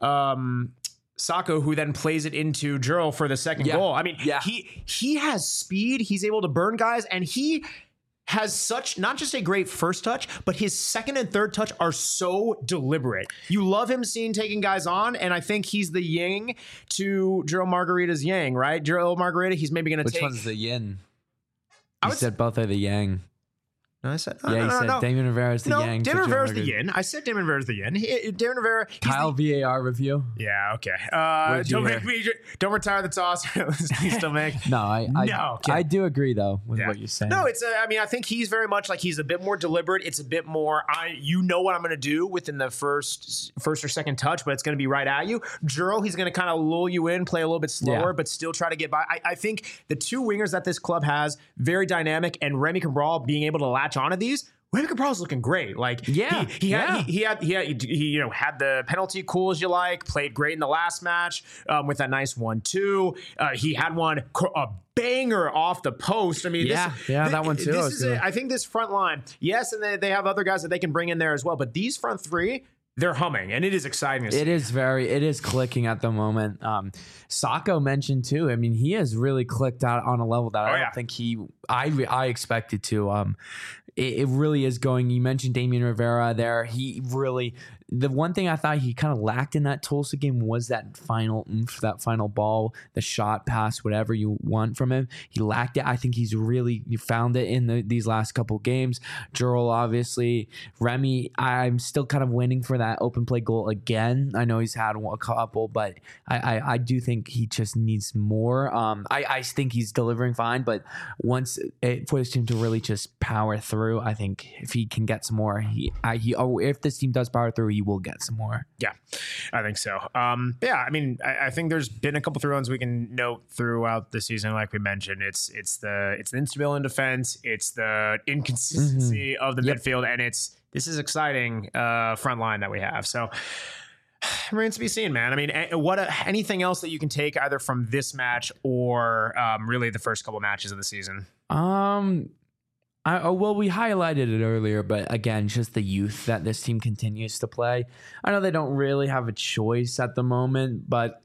Um, Sacco, who then plays it into Jurl for the second Yeah. goal. I mean, Yeah. he he has speed. He's able to burn guys, and he has such not just a great first touch, but his second and third touch are so deliberate. You love him seeing taking guys on, and I think he's the yin to Jurl Margarita's yang, right? Jurl Margarita, he's maybe going to Which take. one's the yin? I You would said both are the yang. No, I said Yeah, no, you no, said no. Damon Rivera's the no, yang. Damon to Rivera's Joe the Margaret. yin. I said Damon Rivera's the yin. He, Damon Rivera, he's Kyle the, V A R review. yeah, okay. Uh, did you don't hear? make me. Don't retire the toss. Please still make. No, I I, No, okay. I do agree though with Yeah. what you're saying. No, it's. A, I mean, I think he's very much like he's a bit more deliberate. It's a bit more. I, you know what I'm going to do within the first, first or second touch, but it's going to be right at you. Juro, he's going to kind of lull you in, play a little bit slower, Yeah. but still try to get by. I, I think the two wingers that this club has, very dynamic, and Remy Cabral being able to latch onto these. Remy Cabral's looking great. Like, Yeah, he, he had, yeah. he, he had, he had, he, you know, had the penalty cool as you like. Played great in the last match um, with that nice one-two. Uh, he had one a banger off the post. I mean, Yeah, this, yeah, thi- that one too. This was is good. a, I think this front line, yes, and they, they have other guys that they can bring in there as well. But these front three, they're humming, and it is exciting to see. It is very, it is clicking at the moment. Um, Sacco mentioned too. I mean, he has really clicked out on a level that I Oh, don't yeah. think he, I, I expected to. Um, it, it really is going. You mentioned Damian Rivera there. He really, the one thing I thought he kind of lacked in that Tulsa game was that final oomph, that final ball, the shot, pass, whatever you want from him. He lacked it. I think he's really found it in the, these last couple games. Jurl, obviously, Remy. I'm still kind of waiting for that open play goal again. I know he's had a couple, but I, I, I do think he just needs more. Um, I, I think he's delivering fine, but once it for his team to really just power through, I think if he can get some more, he, I, he, oh, if this team does power through, he will get some more. Yeah, I think so. Um, yeah, I mean, I, I think there's been a couple through runs we can note throughout the season. Like we mentioned, it's it's the it's the instability in defense, it's the inconsistency of the Yep. midfield, and it's this is exciting uh, front line that we have. So remains to be seen, man. I mean, a- what uh, anything else that you can take either from this match or um, really the first couple matches of the season? Um, I, oh, well, we highlighted it earlier, but again, just the youth that this team continues to play. I know they don't really have a choice at the moment, but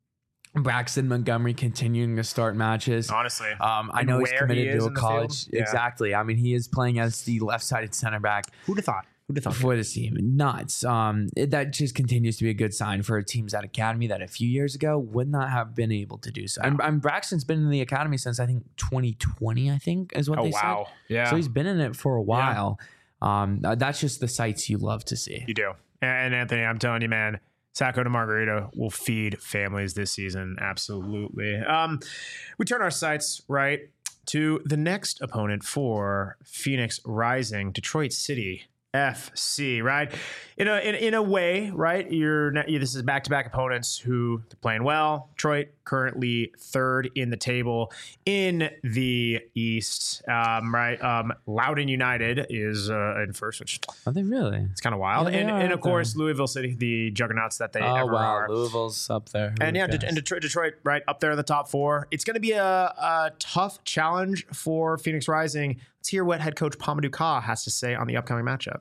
Braxton Montgomery continuing to start matches. Honestly, Um, I And know he's where committed he is to a in the college. field? Yeah. Exactly. I mean, he is playing as the left-sided center back who'd have thought? Who'd have thought? for this team. Nuts. Um, it- that just continues to be a good sign for teams at academy that a few years ago would not have been able to do so. And, and Braxton's been in the academy since I think twenty twenty. I think is what Oh they wow, said. yeah. So he's been in it for a while. Um, uh, that's just the sights you love to see. You do. And Anthony, I'm telling you, man, Sacco to Margarita will feed families this season. Absolutely. Um, we turn our sights right to the next opponent for Phoenix Rising, Detroit City F C, right? In a in, in a way, right? You're not, you, this is back to back opponents who are playing well. Detroit currently third in the table in the East, um, right? Um, Loudoun United is uh, in first, which Are they really? it's kind of wild, Yeah, and they are, and of aren't they? course Louisville City, the juggernauts that they Oh ever wow, are. Louisville's up there. Who And yeah, would De- and guess? Detroit, Detroit, right up there in the top four. It's going to be a, a tough challenge for Phoenix Rising. Let's hear what head coach Pamadou Ka has to say on the upcoming matchup.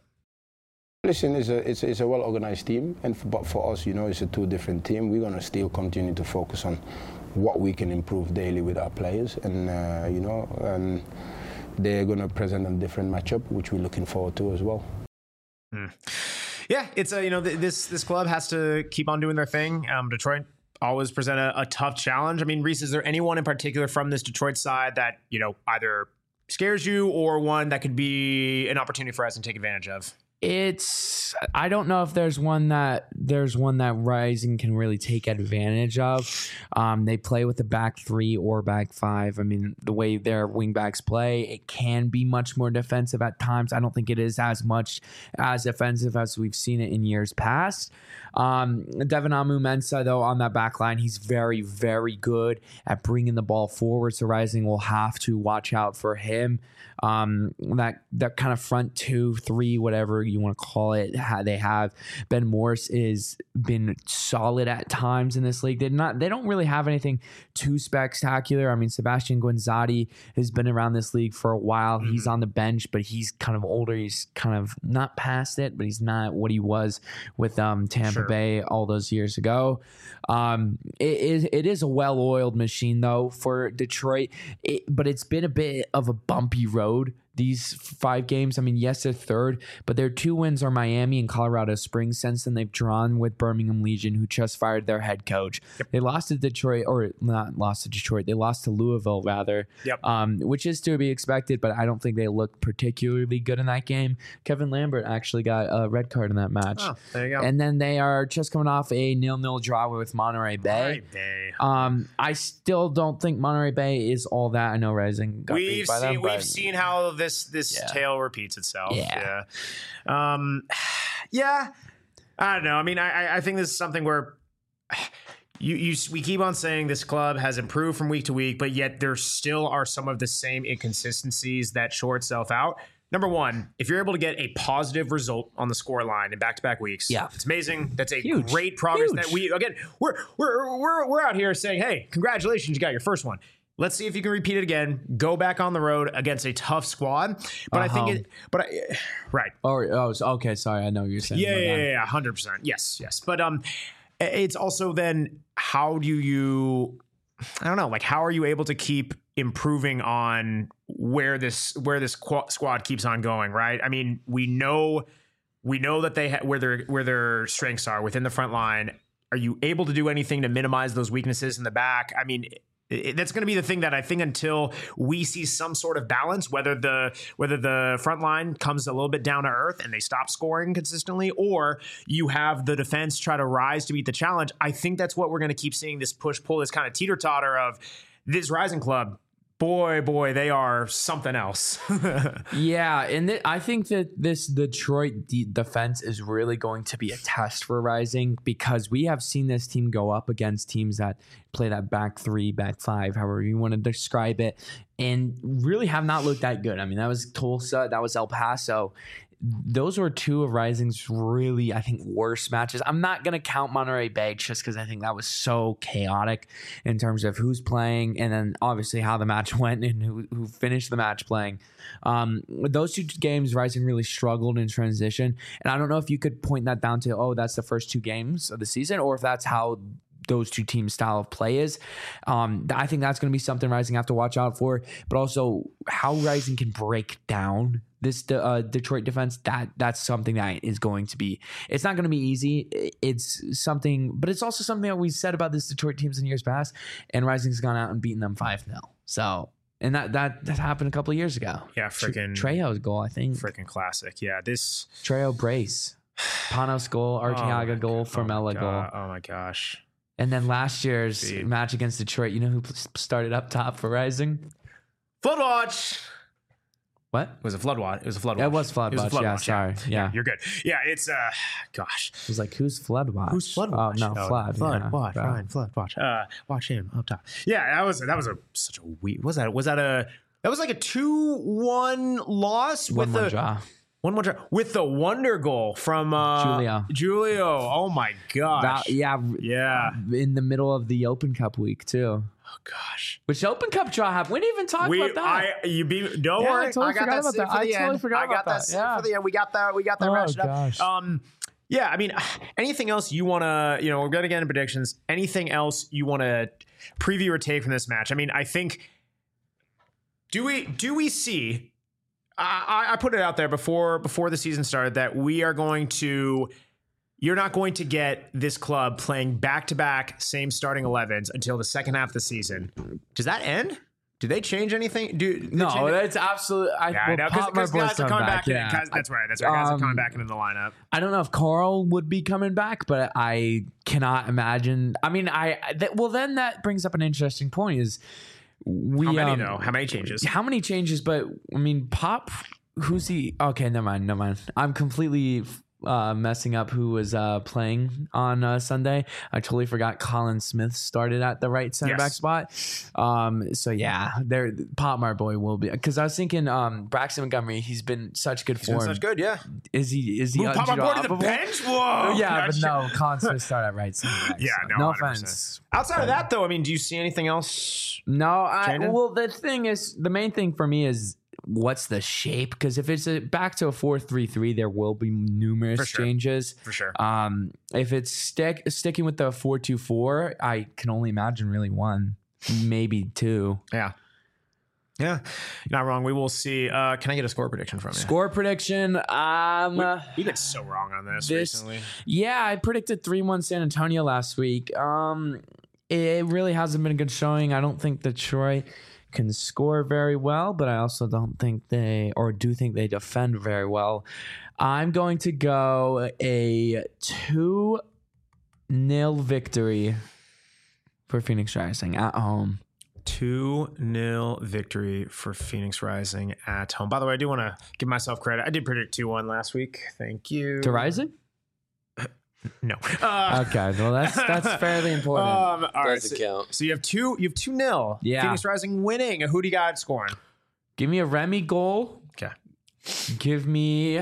Listen, it's a it's a, it's a well-organized team, and for, but for us, you know, it's a two different team. We're gonna still continue to focus on what we can improve daily with our players, and uh, you know, and they're gonna present a different matchup, which we're looking forward to as well. Hmm. Yeah, it's a you know th- this this club has to keep on doing their thing. Um, Detroit always present a, a tough challenge. I mean, Reese, is there anyone in particular from this Detroit side that you know either scares you or one that could be an opportunity for us to take advantage of? It's I don't know if there's one that there's one that Rising can really take advantage of. Um, they play with the back three or back five. I mean, the way their wingbacks play, it can be much more defensive at times. I don't think it is as much as offensive as we've seen it in years past. Um, Devin Amu-Mensah, though, on that back line, he's very, very good at bringing the ball forward. So Rising will have to watch out for him. Um, that that kind of front two, three, whatever you want to call it, how they have. Ben Morse is been solid at times in this league. They're not. They don't really have anything too spectacular. I mean, Sebastian Guinzati has been around this league for a while. Mm-hmm. He's on the bench, but he's kind of older. He's kind of not past it, but he's not what he was with um, Tampa Sure. Bay all those years ago. Um, it is it is a well-oiled machine though for Detroit, it, but it's been a bit of a bumpy road these five games. I mean, yes, they're third, but their two wins are Miami and Colorado Springs. Since then, they've drawn with Birmingham Legion, who just fired their head coach. Yep. They lost to Detroit, or not lost to Detroit. They lost to Louisville, rather, yep. um, which is to be expected, but I don't think they looked particularly good in that game. Kevin Lambert actually got a red card in that match. Oh, there you go. And then they are just coming off a nil-nil draw with Monterey Bay. Monterey Bay. Um, I still don't think Monterey Bay is all that. I know Rising got we've beat by seen them, we've but seen how this this Yeah. tale repeats itself. Yeah. Yeah. Um, yeah. I don't know. I mean, I I think this is something where you you we keep on saying this club has improved from week to week, but yet there still are some of the same inconsistencies that show itself out. Number one, if you're able to get a positive result on the score line in back-to-back weeks, Yeah. it's amazing. That's a Huge. great progress Huge. that we again we're we're we're we're out here saying, hey, congratulations, you got your first one. Let's see if you can repeat it again. Go back on the road against a tough squad. But Uh-huh. I think it, but I, right. Or oh, so- okay. Sorry, I know what you're saying. Yeah, My yeah, bad. yeah, yeah, hundred percent. Yes, yes. But um, it's also then how do you, I don't know, like how are you able to keep improving on where this where this qu- squad keeps on going? Right. I mean, we know we know that they ha- where their where their strengths are within the front line. Are you able to do anything to minimize those weaknesses in the back? I mean. It, that's going to be the thing that I think until we see some sort of balance, whether the whether the front line comes a little bit down to earth and they stop scoring consistently, or you have the defense try to rise to meet the challenge, I think that's what we're going to keep seeing, this push-pull, this kind of teeter-totter of this Rising club. Boy, boy, they are something else. Yeah, and th- I think that this Detroit de- defense is really going to be a test for Rising, because we have seen this team go up against teams that play that back three, back five, however you want to describe it, and really have not looked that good. I mean, that was Tulsa, that was El Paso. Those were two of Rising's really, I think, worst matches. I'm not going to count Monterey Bay just because I think that was so chaotic in terms of who's playing and then obviously how the match went and who, who finished the match playing. Um, those two games, Rising really struggled in transition. And I don't know if you could point that down to, oh, that's the first two games of the season, or if that's how those two teams' style of play is. Um, I think that's going to be something Rising have to watch out for, but also how Rising can break down this uh, Detroit defense. That that's something that is going to be, it's not going to be easy. It's something, but it's also something that we said about this Detroit teams in years past, and Rising's gone out and beaten them five nil. So, and that, that, that happened a couple of years ago. Yeah, freaking Trejo's goal, I think. freaking classic. Yeah, this Trejo brace. Panos goal, Arteaga oh goal, God, Formella oh goal. God, oh my gosh. And then last year's Dude. match against Detroit, you know who started up top for Rising? Floodwatch. What? It was a flood watch. It was a flood watch. It was flood It was a watch. flood Yeah, watch, sorry. Yeah. You're good. Yeah, it's uh, gosh. It was like, who's Flood Watch? Who's Flood Oh, Watch? no, Flood. Flood yeah, Watch. bro. Ryan Flood Watch. Uh, watch him up top. Yeah, that was that was a such a weird. Was that was that a that was like a two one loss One with more the draw. one more draw with the wonder goal from uh, Julio. Julio. Oh my gosh. That- yeah, yeah. in the middle of the Open Cup week, too. Oh gosh. Which Open Cup draw happened? We didn't even talk We, about that. I, you be. Don't Yeah, I worry. totally I got forgot that about saved that. for I the totally end. forgot I got about that that. saved Yeah. for the end. We got that. We got that Oh, ratcheted up. gosh. Um. Yeah, I mean, anything else you want to, you know, we're going to get into predictions. Anything else you want to preview or take from this match? I mean, I think, do we do we see, I, I put it out there before before the season started that we are going to, you're not going to get this club playing back-to-back same starting elevens until the second half of the season. Does that end? Do they change anything? Do they no, change- that's absolutely. I, yeah, I well, know, Pop because Marboy's guys are coming coming back. back. in, yeah. guys- that's right. That's right. Guys are coming Um, back into the lineup. I don't know if Carl would be coming back, but I cannot imagine. I mean, I that, well, then that brings up an interesting point: is we How many um, though? How many changes? how many changes? But I mean, Pop. Who's he? Okay, never mind. Never mind. I'm completely uh, messing up who was uh, playing on uh, Sunday. I totally forgot Colin Smith started at the right center Yes. back spot. Um, so yeah, there Pop Marboy will be because I was thinking um, Braxton Montgomery. He's been such good He's been form. such good, yeah. Is he? Is he? Move Pop Marboy to the undroppable? bench? Whoa. Yeah, but Gotcha. no, Colin Smith started at right center back. Yeah, so no, no one hundred percent. offense. Outside of that, though, I mean, do you see anything else? No, I Changing? well the thing is the main thing for me is what's the shape because if it's a, back to a four three three, there will be numerous For sure. changes. For sure. Um, if it's stick sticking with the four two four, I can only imagine really one, maybe two. Yeah. Yeah. You're not wrong. We will see. Uh, can I get a score prediction from you? Score prediction. Um, We, we've been so wrong on this, this- recently. yeah, I predicted three one San Antonio last week. Um, it really hasn't been a good showing. I don't think Detroit can score very well, but I also don't think they, or do think they defend very well. I'm going to go a two nil victory for Phoenix Rising at home. two nil victory for Phoenix Rising at home. By the way, I do want to give myself credit. I did predict two one last week. Thank you. To Rising? No. Uh, Okay, well that's that's fairly important. Um, all right, Doesn't so, count. so you have two. You have two nil. Yeah. Phoenix Rising winning. Who do you got scoring? Give me a Remy goal. Okay. Give me.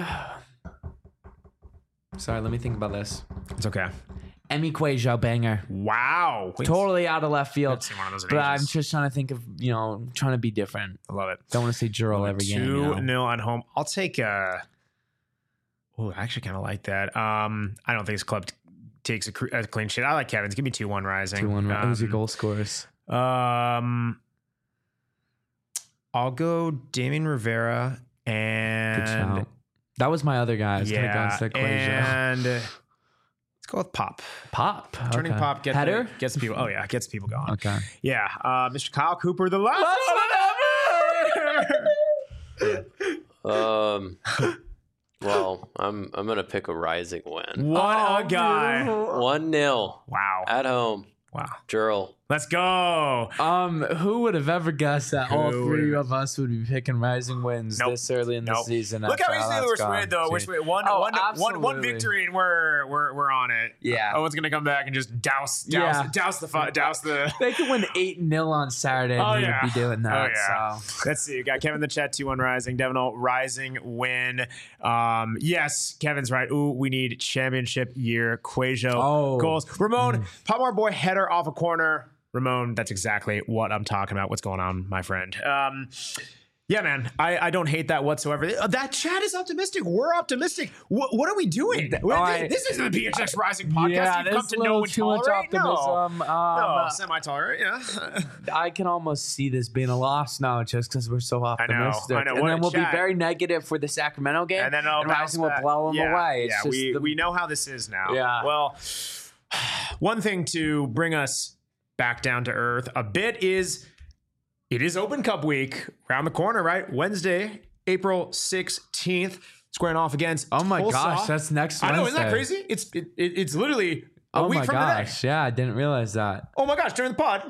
Sorry, let me think about this. It's okay. Emi Cuejo banger. Wow. Wait, Totally out of left field. I've seen one of those in But I'm ages. just trying to think of, you know, trying to be different. I love it. Don't want to say Jurel every game. Two You know? nil at home. I'll take. Uh, oh, I actually kind of like that. Um, I don't think this club t- takes a, cr- a clean sheet. I like Kevin's. Give me two one Rising. two one. Um, Who's your goal scorers? Um, I'll go Damien Rivera Good and shout. That was my other guy. I was yeah, gonna go instead Cuejo. and uh, let's go with Pop. Pop. Turning okay. Pop gets Header. the, gets the people. Oh yeah, gets people going. Okay. Yeah, uh, Mister Kyle Cooper, the last one ever. Um, well, I'm I'm gonna pick a Rising win. What a guy! One nil Wow, at home. wow. Jurl. Let's go. Um, who would have ever guessed that all Who three would- of us would be picking Rising wins Nope. this early in the Nope. season? Look after how all easily that's we're gone? split though. We're See. split. One, Oh, one, one, one absolutely. victory, and we're we're we're on it. Yeah. Oh, one's gonna come back and just douse, douse, Yeah. douse the fu- douse the. They could win eight nil on Saturday. Oh, and he yeah. would be doing that. Oh, yeah. So Let's see. We got Kevin in the chat, two one Rising. Devonal Rising win. Um, yes, Kevin's right. Ooh, we need championship year Cuejo Oh. goals. Ramon, Palmar boy header off a corner. Ramon, that's exactly what I'm talking about. What's going on, my friend? Um, yeah, man, I, I don't hate that whatsoever. That chat is optimistic. We're optimistic. What, what are we doing? Oh, I- this isn't the P H X Rising podcast. yeah, You've come there's to a know little and too much tolerate. No. optimism. Um, No, semi-tolerant, yeah. I can almost see this being a loss now, just because we're so optimistic. I know. And What then a we'll chat. be very negative for the Sacramento game, And then it'll bounce Rising will back. blow them yeah, away. It's yeah, just we, the- we know how this is now. Yeah. Well, one thing to bring us back down to earth a bit is it is Open Cup week around the corner, right? Wednesday, April sixteenth, squaring off against Oh my Tulsa. gosh, that's next I know, Wednesday. isn't that crazy? It's it, it, it's literally a Oh week my from today. gosh, yeah, I didn't realize that. Oh my gosh, during the pod,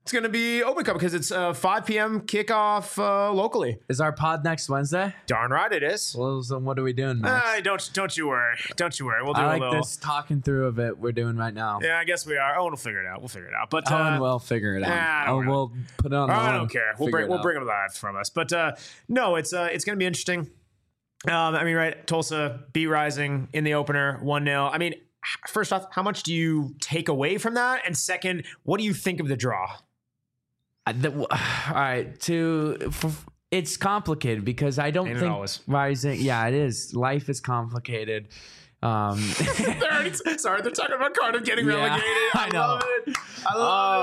It's going to be Open Cup because it's uh, five p.m. kickoff uh, locally. Is our pod next Wednesday? Darn right it is. Well, so what are we doing next? Uh, don't don't you worry. Don't you worry. We'll do I a like little. this talking through of it we're doing right now. Yeah, I guess we are. Oh, we'll figure it out. We'll figure it out. But uh, Owen will figure it out. nah, I oh, don't know. we'll put it on. The I line, don't care. We'll figure bring it we'll out. bring them live from us. But uh, no, it's uh, it's going to be interesting. Um, I mean, right? Tulsa beat Rising in the opener, one nil. I mean, first off, how much do you take away from that? And second, what do you think of the draw? Uh, the- all right, to f- it's complicated because I don't Ain't it think always? Rising. Yeah, it is. Life is complicated. Um, They're already, sorry, they're talking about Cardiff getting Yeah, relegated. I, I know. love it. I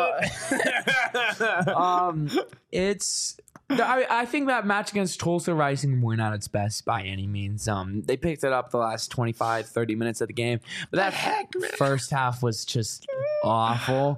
love it. um, it's. I, I think that match against Tulsa Rising weren't at its best by any means. Um, they picked it up the last twenty-five, thirty minutes of the game, but that heck, man? first half was just awful.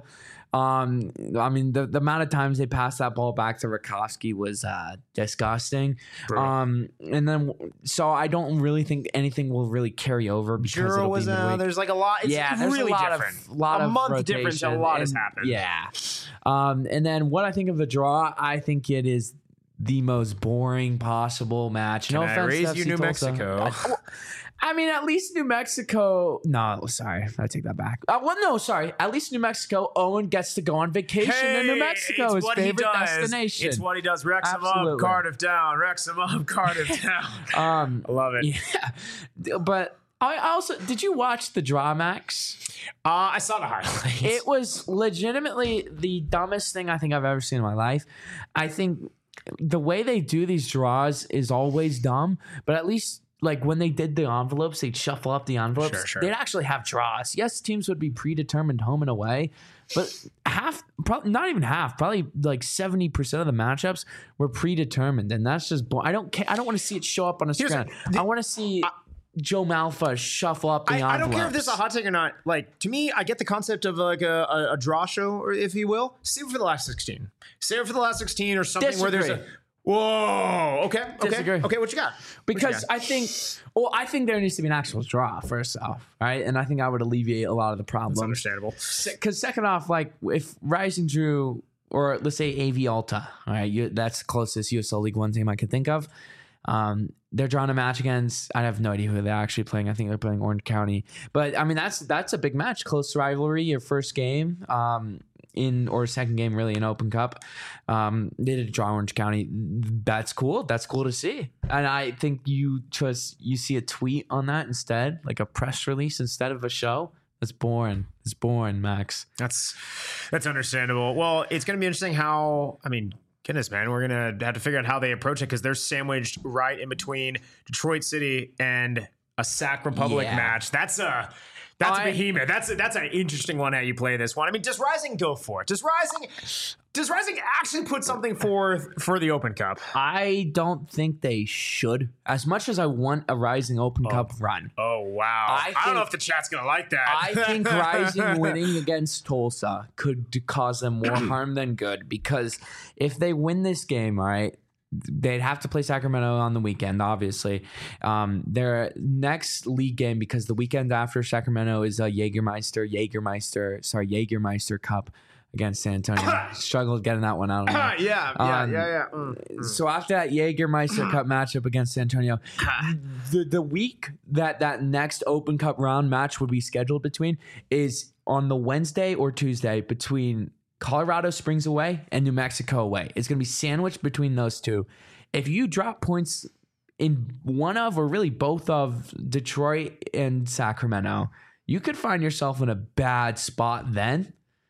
Um, I mean, the, the amount of times they passed that ball back to Rakowski was uh, disgusting. Brutal. Um, and then, so I don't really think anything will really carry over because Juro it'll was be uh, midweek. there's like a lot. It's yeah, there's really a lot different. of lot a of month rotation, difference. A lot has and- happened. Yeah. Um, and then what I think of the draw, I think it is the most boring possible match. Can no I offense, raise to you, F C New Tulsa. Mexico? I, I mean, at least New Mexico. No, sorry, I take that back. Uh, well, no, sorry. At least New Mexico. Owen gets to go on vacation in New Hey, Mexico, it's his what he favorite does. destination. It's what he does. Wrexham up, Absolutely. Cardiff down. Wrexham up, Cardiff down. um, I love it. yeah, but I also did you watch the draw, Max? Uh, I saw the highlights. It was legitimately the dumbest thing I think I've ever seen in my life. I think the way they do these draws is always dumb, but at least like when they did the envelopes, they'd shuffle up the envelopes. Sure, sure. They'd actually have draws. Yes, teams would be predetermined home and away, but half, probably not even half, probably like seventy percent of the matchups were predetermined, and that's just. Bo- I don't care. I don't want to see it show up on a Here's screen. the- I want to see. Joe Malfa shuffle up the I, envelopes. I don't care if this is a hot take or not. Like, to me, I get the concept of like a, a, a draw show, or if you will. Save it for the last sixteen. Save it for the last sixteen or something where there's a. Disagree. Whoa. Okay. Okay. Disagree. Okay. What you got? What you Because got? I think, well, I think there needs to be an actual draw first off, right? And I think I would alleviate a lot of the That's problems. understandable. Because second off, like if Rising drew, or let's say A V Alta, all right, you, that's the closest U S L League One team I could think of. Um, they're drawing a match against. I have no idea who they're actually playing. I think they're playing Orange County. But I mean, that's that's a big match, close rivalry. Your first game. Um, in or second game really in Open Cup. Um, they did draw Orange County. That's cool. That's cool to see. And I think you just you see a tweet on that instead, like a press release instead of a show. That's boring. It's boring, Max. That's that's understandable. Well, it's going to be interesting how. I mean, goodness, man, we're going to have to figure out how they approach it because they're sandwiched right in between Detroit City and a Sac Republic Yeah. match. That's a. That's I- a behemoth. That's a, that's an interesting one how you play this one. I mean, does Rising go for it? Does Rising does Rising actually put something forth for the Open Cup? I don't think they should. As much as I want a Rising Open Cup run, Oh wow! I I, don't know think- if the chat's gonna like that. I think Rising winning against Tulsa could d- cause them more harm than good because if they win this game, all right, they'd have to play Sacramento on the weekend, obviously. Um, their next league game, because the weekend after Sacramento is a Jägermeister, Jägermeister, sorry, Jägermeister Cup against San Antonio. Struggled getting that one out. yeah, yeah, Um, yeah, yeah. Mm, mm. So after that Jägermeister Cup matchup against San Antonio, the the week that that next Open Cup round match would be scheduled between is on the Wednesday or Tuesday between Colorado Springs away and New Mexico away. It's going to be sandwiched between those two. If you drop points in one of or really both of Detroit and Sacramento, you could find yourself in a bad spot then.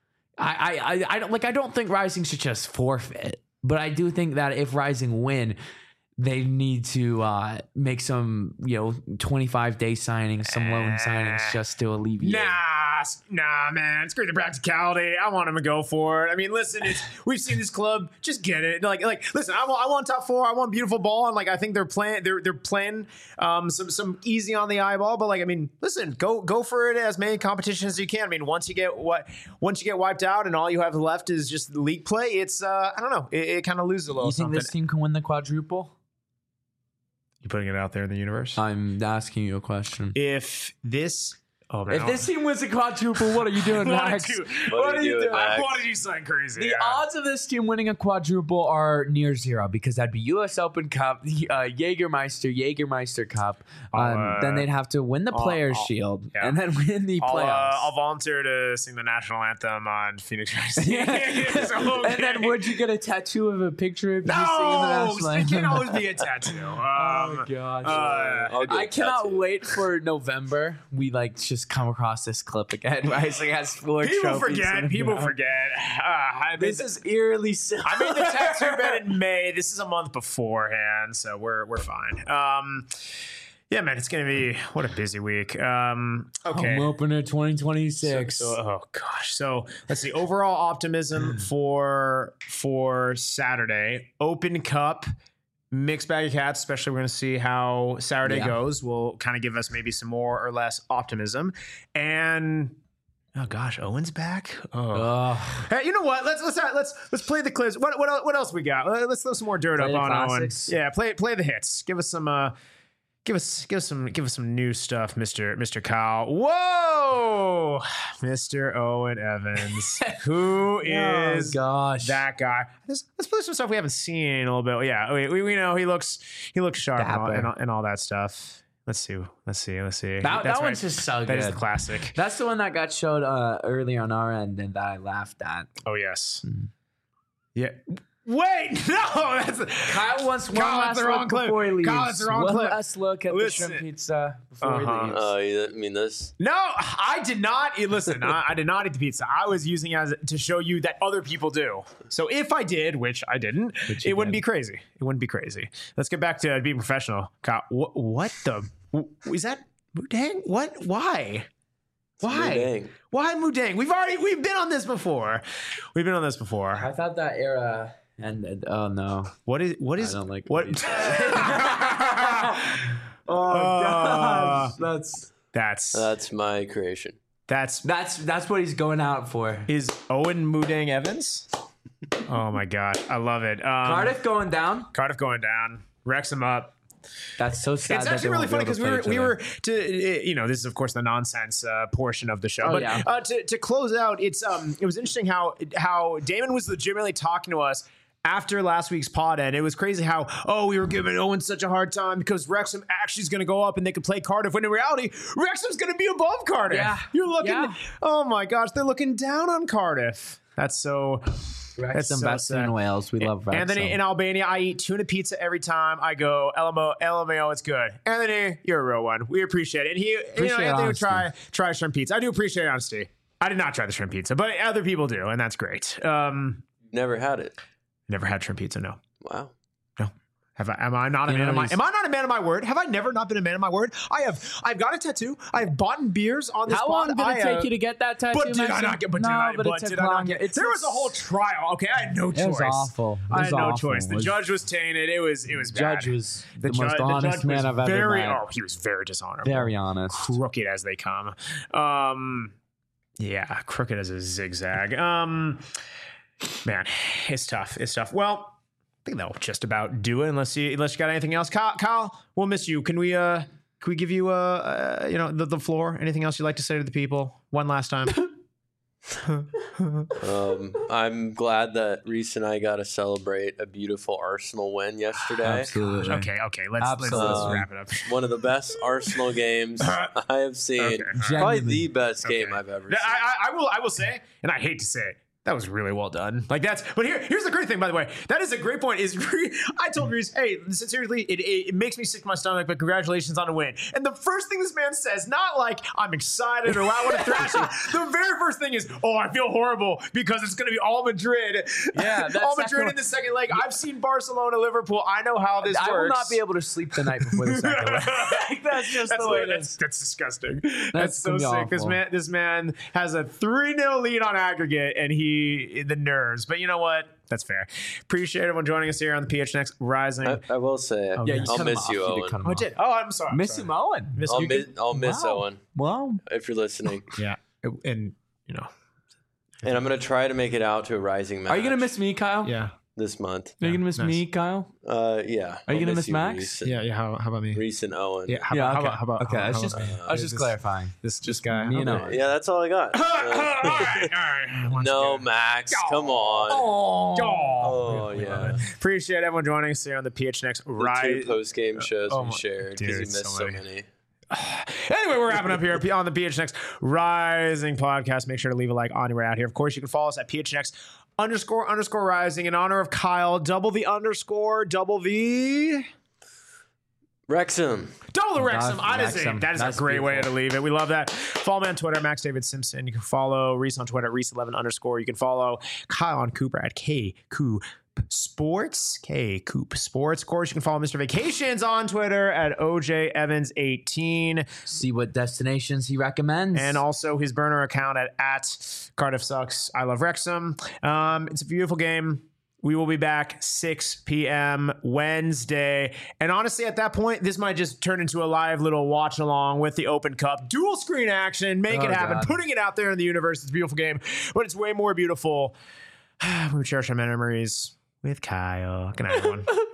I, I, I, I don't like. I don't think Rising should just forfeit, but I do think that if Rising win, they need to uh, make some, you know, twenty-five day signings, some loan signings, just to alleviate. Nah, s- nah, man. Screw the practicality. I want him to go for it. I mean, listen, it's, we've seen this club. Just get it. Like, like, listen. I want, I want top four. I want beautiful ball, and like, I think they're playing. They're they're playing um, some some easy on the eyeball. But like, I mean, listen, go go for it as many competitions as you can. I mean, once you get what once you get wiped out, and all you have left is just league play. It's uh, I don't know. It, it kind of loses a little You think something. this team can win the quadruple? You putting it out there in the universe? I'm asking you a question. If this Oh, man. If this team wins a quadruple, what are you doing, What Max? did you- What what are are you you doing, doing? I Max? wanted you something crazy. The yeah. odds of this team winning a quadruple are near zero because that'd be U S Open Cup, the uh, Jägermeister, Jägermeister Cup. Um, I'll, uh, then they'd have to win the I'll- Players' I'll- Shield yeah. and then win the I'll, playoffs. uh, I'll volunteer to sing the national anthem on Phoenix Rising. It's okay. And then would you get a tattoo of a picture of you No, singing the national it anthem? can't always be a tattoo. Um, Oh gosh. uh, I'll get I a cannot tattoo. wait for November. We like just come across this clip again. Rising has four people trophies forget. in a People row. forget. Uh, I made This the- is eerily silly. I made the tattoo bet in May. This is a month beforehand, so we're we're fine. Um, yeah, man, it's gonna be what a busy week. Um, okay. Home opener twenty twenty-six. So, oh gosh. So let's see. Overall optimism for for Saturday. Open Cup, mixed bag of cats. Especially, we're going to see how Saturday Yeah. goes. Will kind of give us maybe some more or less optimism. And oh gosh, Owen's back. Oh. Ugh. Hey, you know what? Let's let's let's let's play the clips. What what el- what else we got? Uh, Let's throw some more dirt Play up the on classics. Owen. Yeah, play play the hits. Give us some. Uh, Give us, give us some, give us some new stuff, Mister Mister Kyle. Whoa, Mister Owen Evans, who is Oh gosh. that guy? Let's, let's play some stuff we haven't seen in a little bit. Yeah, we, we, we know he looks he looks sharp and all, Dapper. and all and all that stuff. Let's see, let's see, let's see. That, That's that one's right. just so That is the good. classic. That's the one that got showed uh, earlier on our end and that I laughed at. Oh yes, Mm. yeah. Wait, no, that's Kyle wants one Kyle, last that's the wrong look clip. before he leaves. Kyle, that's the wrong one clip. last look at Listen. the shrimp pizza before Uh-huh. he leaves. Oh, you mean this? No, I did not. eh, Listen, I, I did not eat the pizza. I was using it as to show you that other people do. So if I did, which I didn't, Which you it wouldn't did. be crazy. It wouldn't be crazy. Let's get back to being professional. Kyle, what, what the? Is that Mudang? What? Why? Why? Mudang. Why Mudang? We've already we've been on this before. We've been on this I before. thought that era ended. Oh no. What is? What is? I don't like what? what he said. Oh Uh, gosh. That's That's That's my creation. that's that's that's what he's going out for. is Owen Mudang Evans. Oh my god, I love it. Um, Cardiff going down. Cardiff going down. Wrexham up. That's so sad. It's that actually they really won't be funny able because to we play were each we other. were to uh, you know this is of course the nonsense uh, portion of the show, Oh, but yeah. uh, to to close out, it's um it was interesting how how Damon was legitimately talking to us after last week's pod, and it was crazy how oh we were giving Owen such a hard time because Wrexham actually is going to go up and they could play Cardiff, when in reality Wrexham's going to be above Cardiff. Yeah. You're looking, Yeah. oh my gosh, they're looking down on Cardiff. That's so. Wrexham, so best sad. in Wales. We love Wrexham. Anthony, in Albania, I eat tuna pizza every time I go. L M O, L M A O, it's good. Anthony, you're a real one. We appreciate it. And he, you know, Appreciate Anthony would honesty. try try shrimp pizza. I do appreciate honesty. I did not try the shrimp pizza, but other people do, and that's great. Um, Never had it. never had shrimp pizza. No, Wow. no. Have I? Am I not a You man know, of my? he's- Am I not a man of my word? Have I never not been a man of my word? I have. I've got a tattoo. I've bought beers on this. How pod. long did it I, take uh, you to get that tattoo? But did I Mason? not get? But no, did I? but, But it took did I not long. get? It's There was a whole trial. Okay, I had no choice. It was awful. It I was had no awful. choice. The It was- judge was tainted. It was. It was The bad. judge was The, the, ju- most the honest judge man was I've ever very, met. Oh, he was very dishonorable. Very honest. Crooked as they come. Um, yeah, crooked as a zigzag. Um, man, it's tough. It's tough. Well, I think that'll just about do it. Unless you, unless you got anything else, Kyle. Kyle, we'll miss you. Can we, uh, can we give you, uh, uh you know, the, the floor? Anything else you'd like to say to the people? One last time. Um, I'm glad that Reese and I got to celebrate a beautiful Arsenal win yesterday. Absolutely. okay, okay. Let's, let's, let's Absolutely. wrap it up. One of the best Arsenal games I have seen. Okay. Probably Genuinely. the best game Okay. I've ever I, seen. I, I will. I will say, and I hate to say it, that was really well done. Like that's. But here, here's the great thing. By the way, that is a great point. Is Re- I told Reese, hey, sincerely, it, it, it makes me sick to my stomach, but congratulations on a win. And the first thing this man says, not like I'm excited or wow, what a thrashing. The very first thing is, oh, I feel horrible because it's going to be all Madrid. Yeah, that all second Madrid one- in the second leg. I've seen Barcelona, Liverpool. I know how this I works. will not be able to sleep the night before the second leg. Like, that's just That's the way what- it that's, is. that's disgusting. That's, so gonna be sick. This awful. man, this man has a three nil lead on aggregate, and he the nerves. But you know what? That's fair. Appreciate everyone joining us here on the P H N X Rising. I, I will say, Oh, Yeah, you I'll cut him miss off. you, did Owen. cut him oh, I off. did. Oh, I'm sorry. I'm Miss sorry. him, Owen. Miss I'll you. miss, I'll miss Wow. Owen Wow. if you're listening. Yeah, and you know, And I'm going to try to make it out to a Rising match. Are you gonna miss me, Kyle? yeah. this month. Are you gonna miss Nice. me, Kyle? Uh, yeah. Are you I'll gonna miss you, Max? Reese and- Yeah, yeah. How, how about me? Reese and Owen. Yeah, how, Yeah, about, okay. how about how about Okay, how, I was how just, about- I was just this- clarifying. This this guy. Me and Okay. Owen. Yeah, that's all I got. all Uh, right, all right. Once no, again. Max, come on. Oh, Oh, yeah. Appreciate everyone joining us here on the P H N X The Rise. two post game shows oh we my- shared dude, because you missed so so many. many. Anyway, we're wrapping up here on the P H N X Rising podcast. Make sure to leave a like on your way out here. Of course, you can follow us at P H N X underscore underscore rising in honor of Kyle. Double the underscore, double the. Wrexham. Double the That's Wrexham. I just Wrexham. that is That's a great way beautiful. to leave it. We love that. Follow me on Twitter, Max David Simpson. You can follow Reese on Twitter at Reese eleven underscore. You can follow Kyle on Cooper at K Coop Sports. K Coop Sports. Of course, you can follow Mister Vacations on Twitter at O J Evans eighteen. See what destinations he recommends. And also his burner account at, at Cardiff Sucks. I love Wrexham. Um, it's a beautiful game. We will be back six p.m. Wednesday. And honestly, at that point, this might just turn into a live little watch along with the Open Cup. Dual screen action. Make Oh, it happen. God. Putting it out there in the universe. It's a beautiful game. But it's way more beautiful. We cherish our memories with Kyle. Good night, everyone.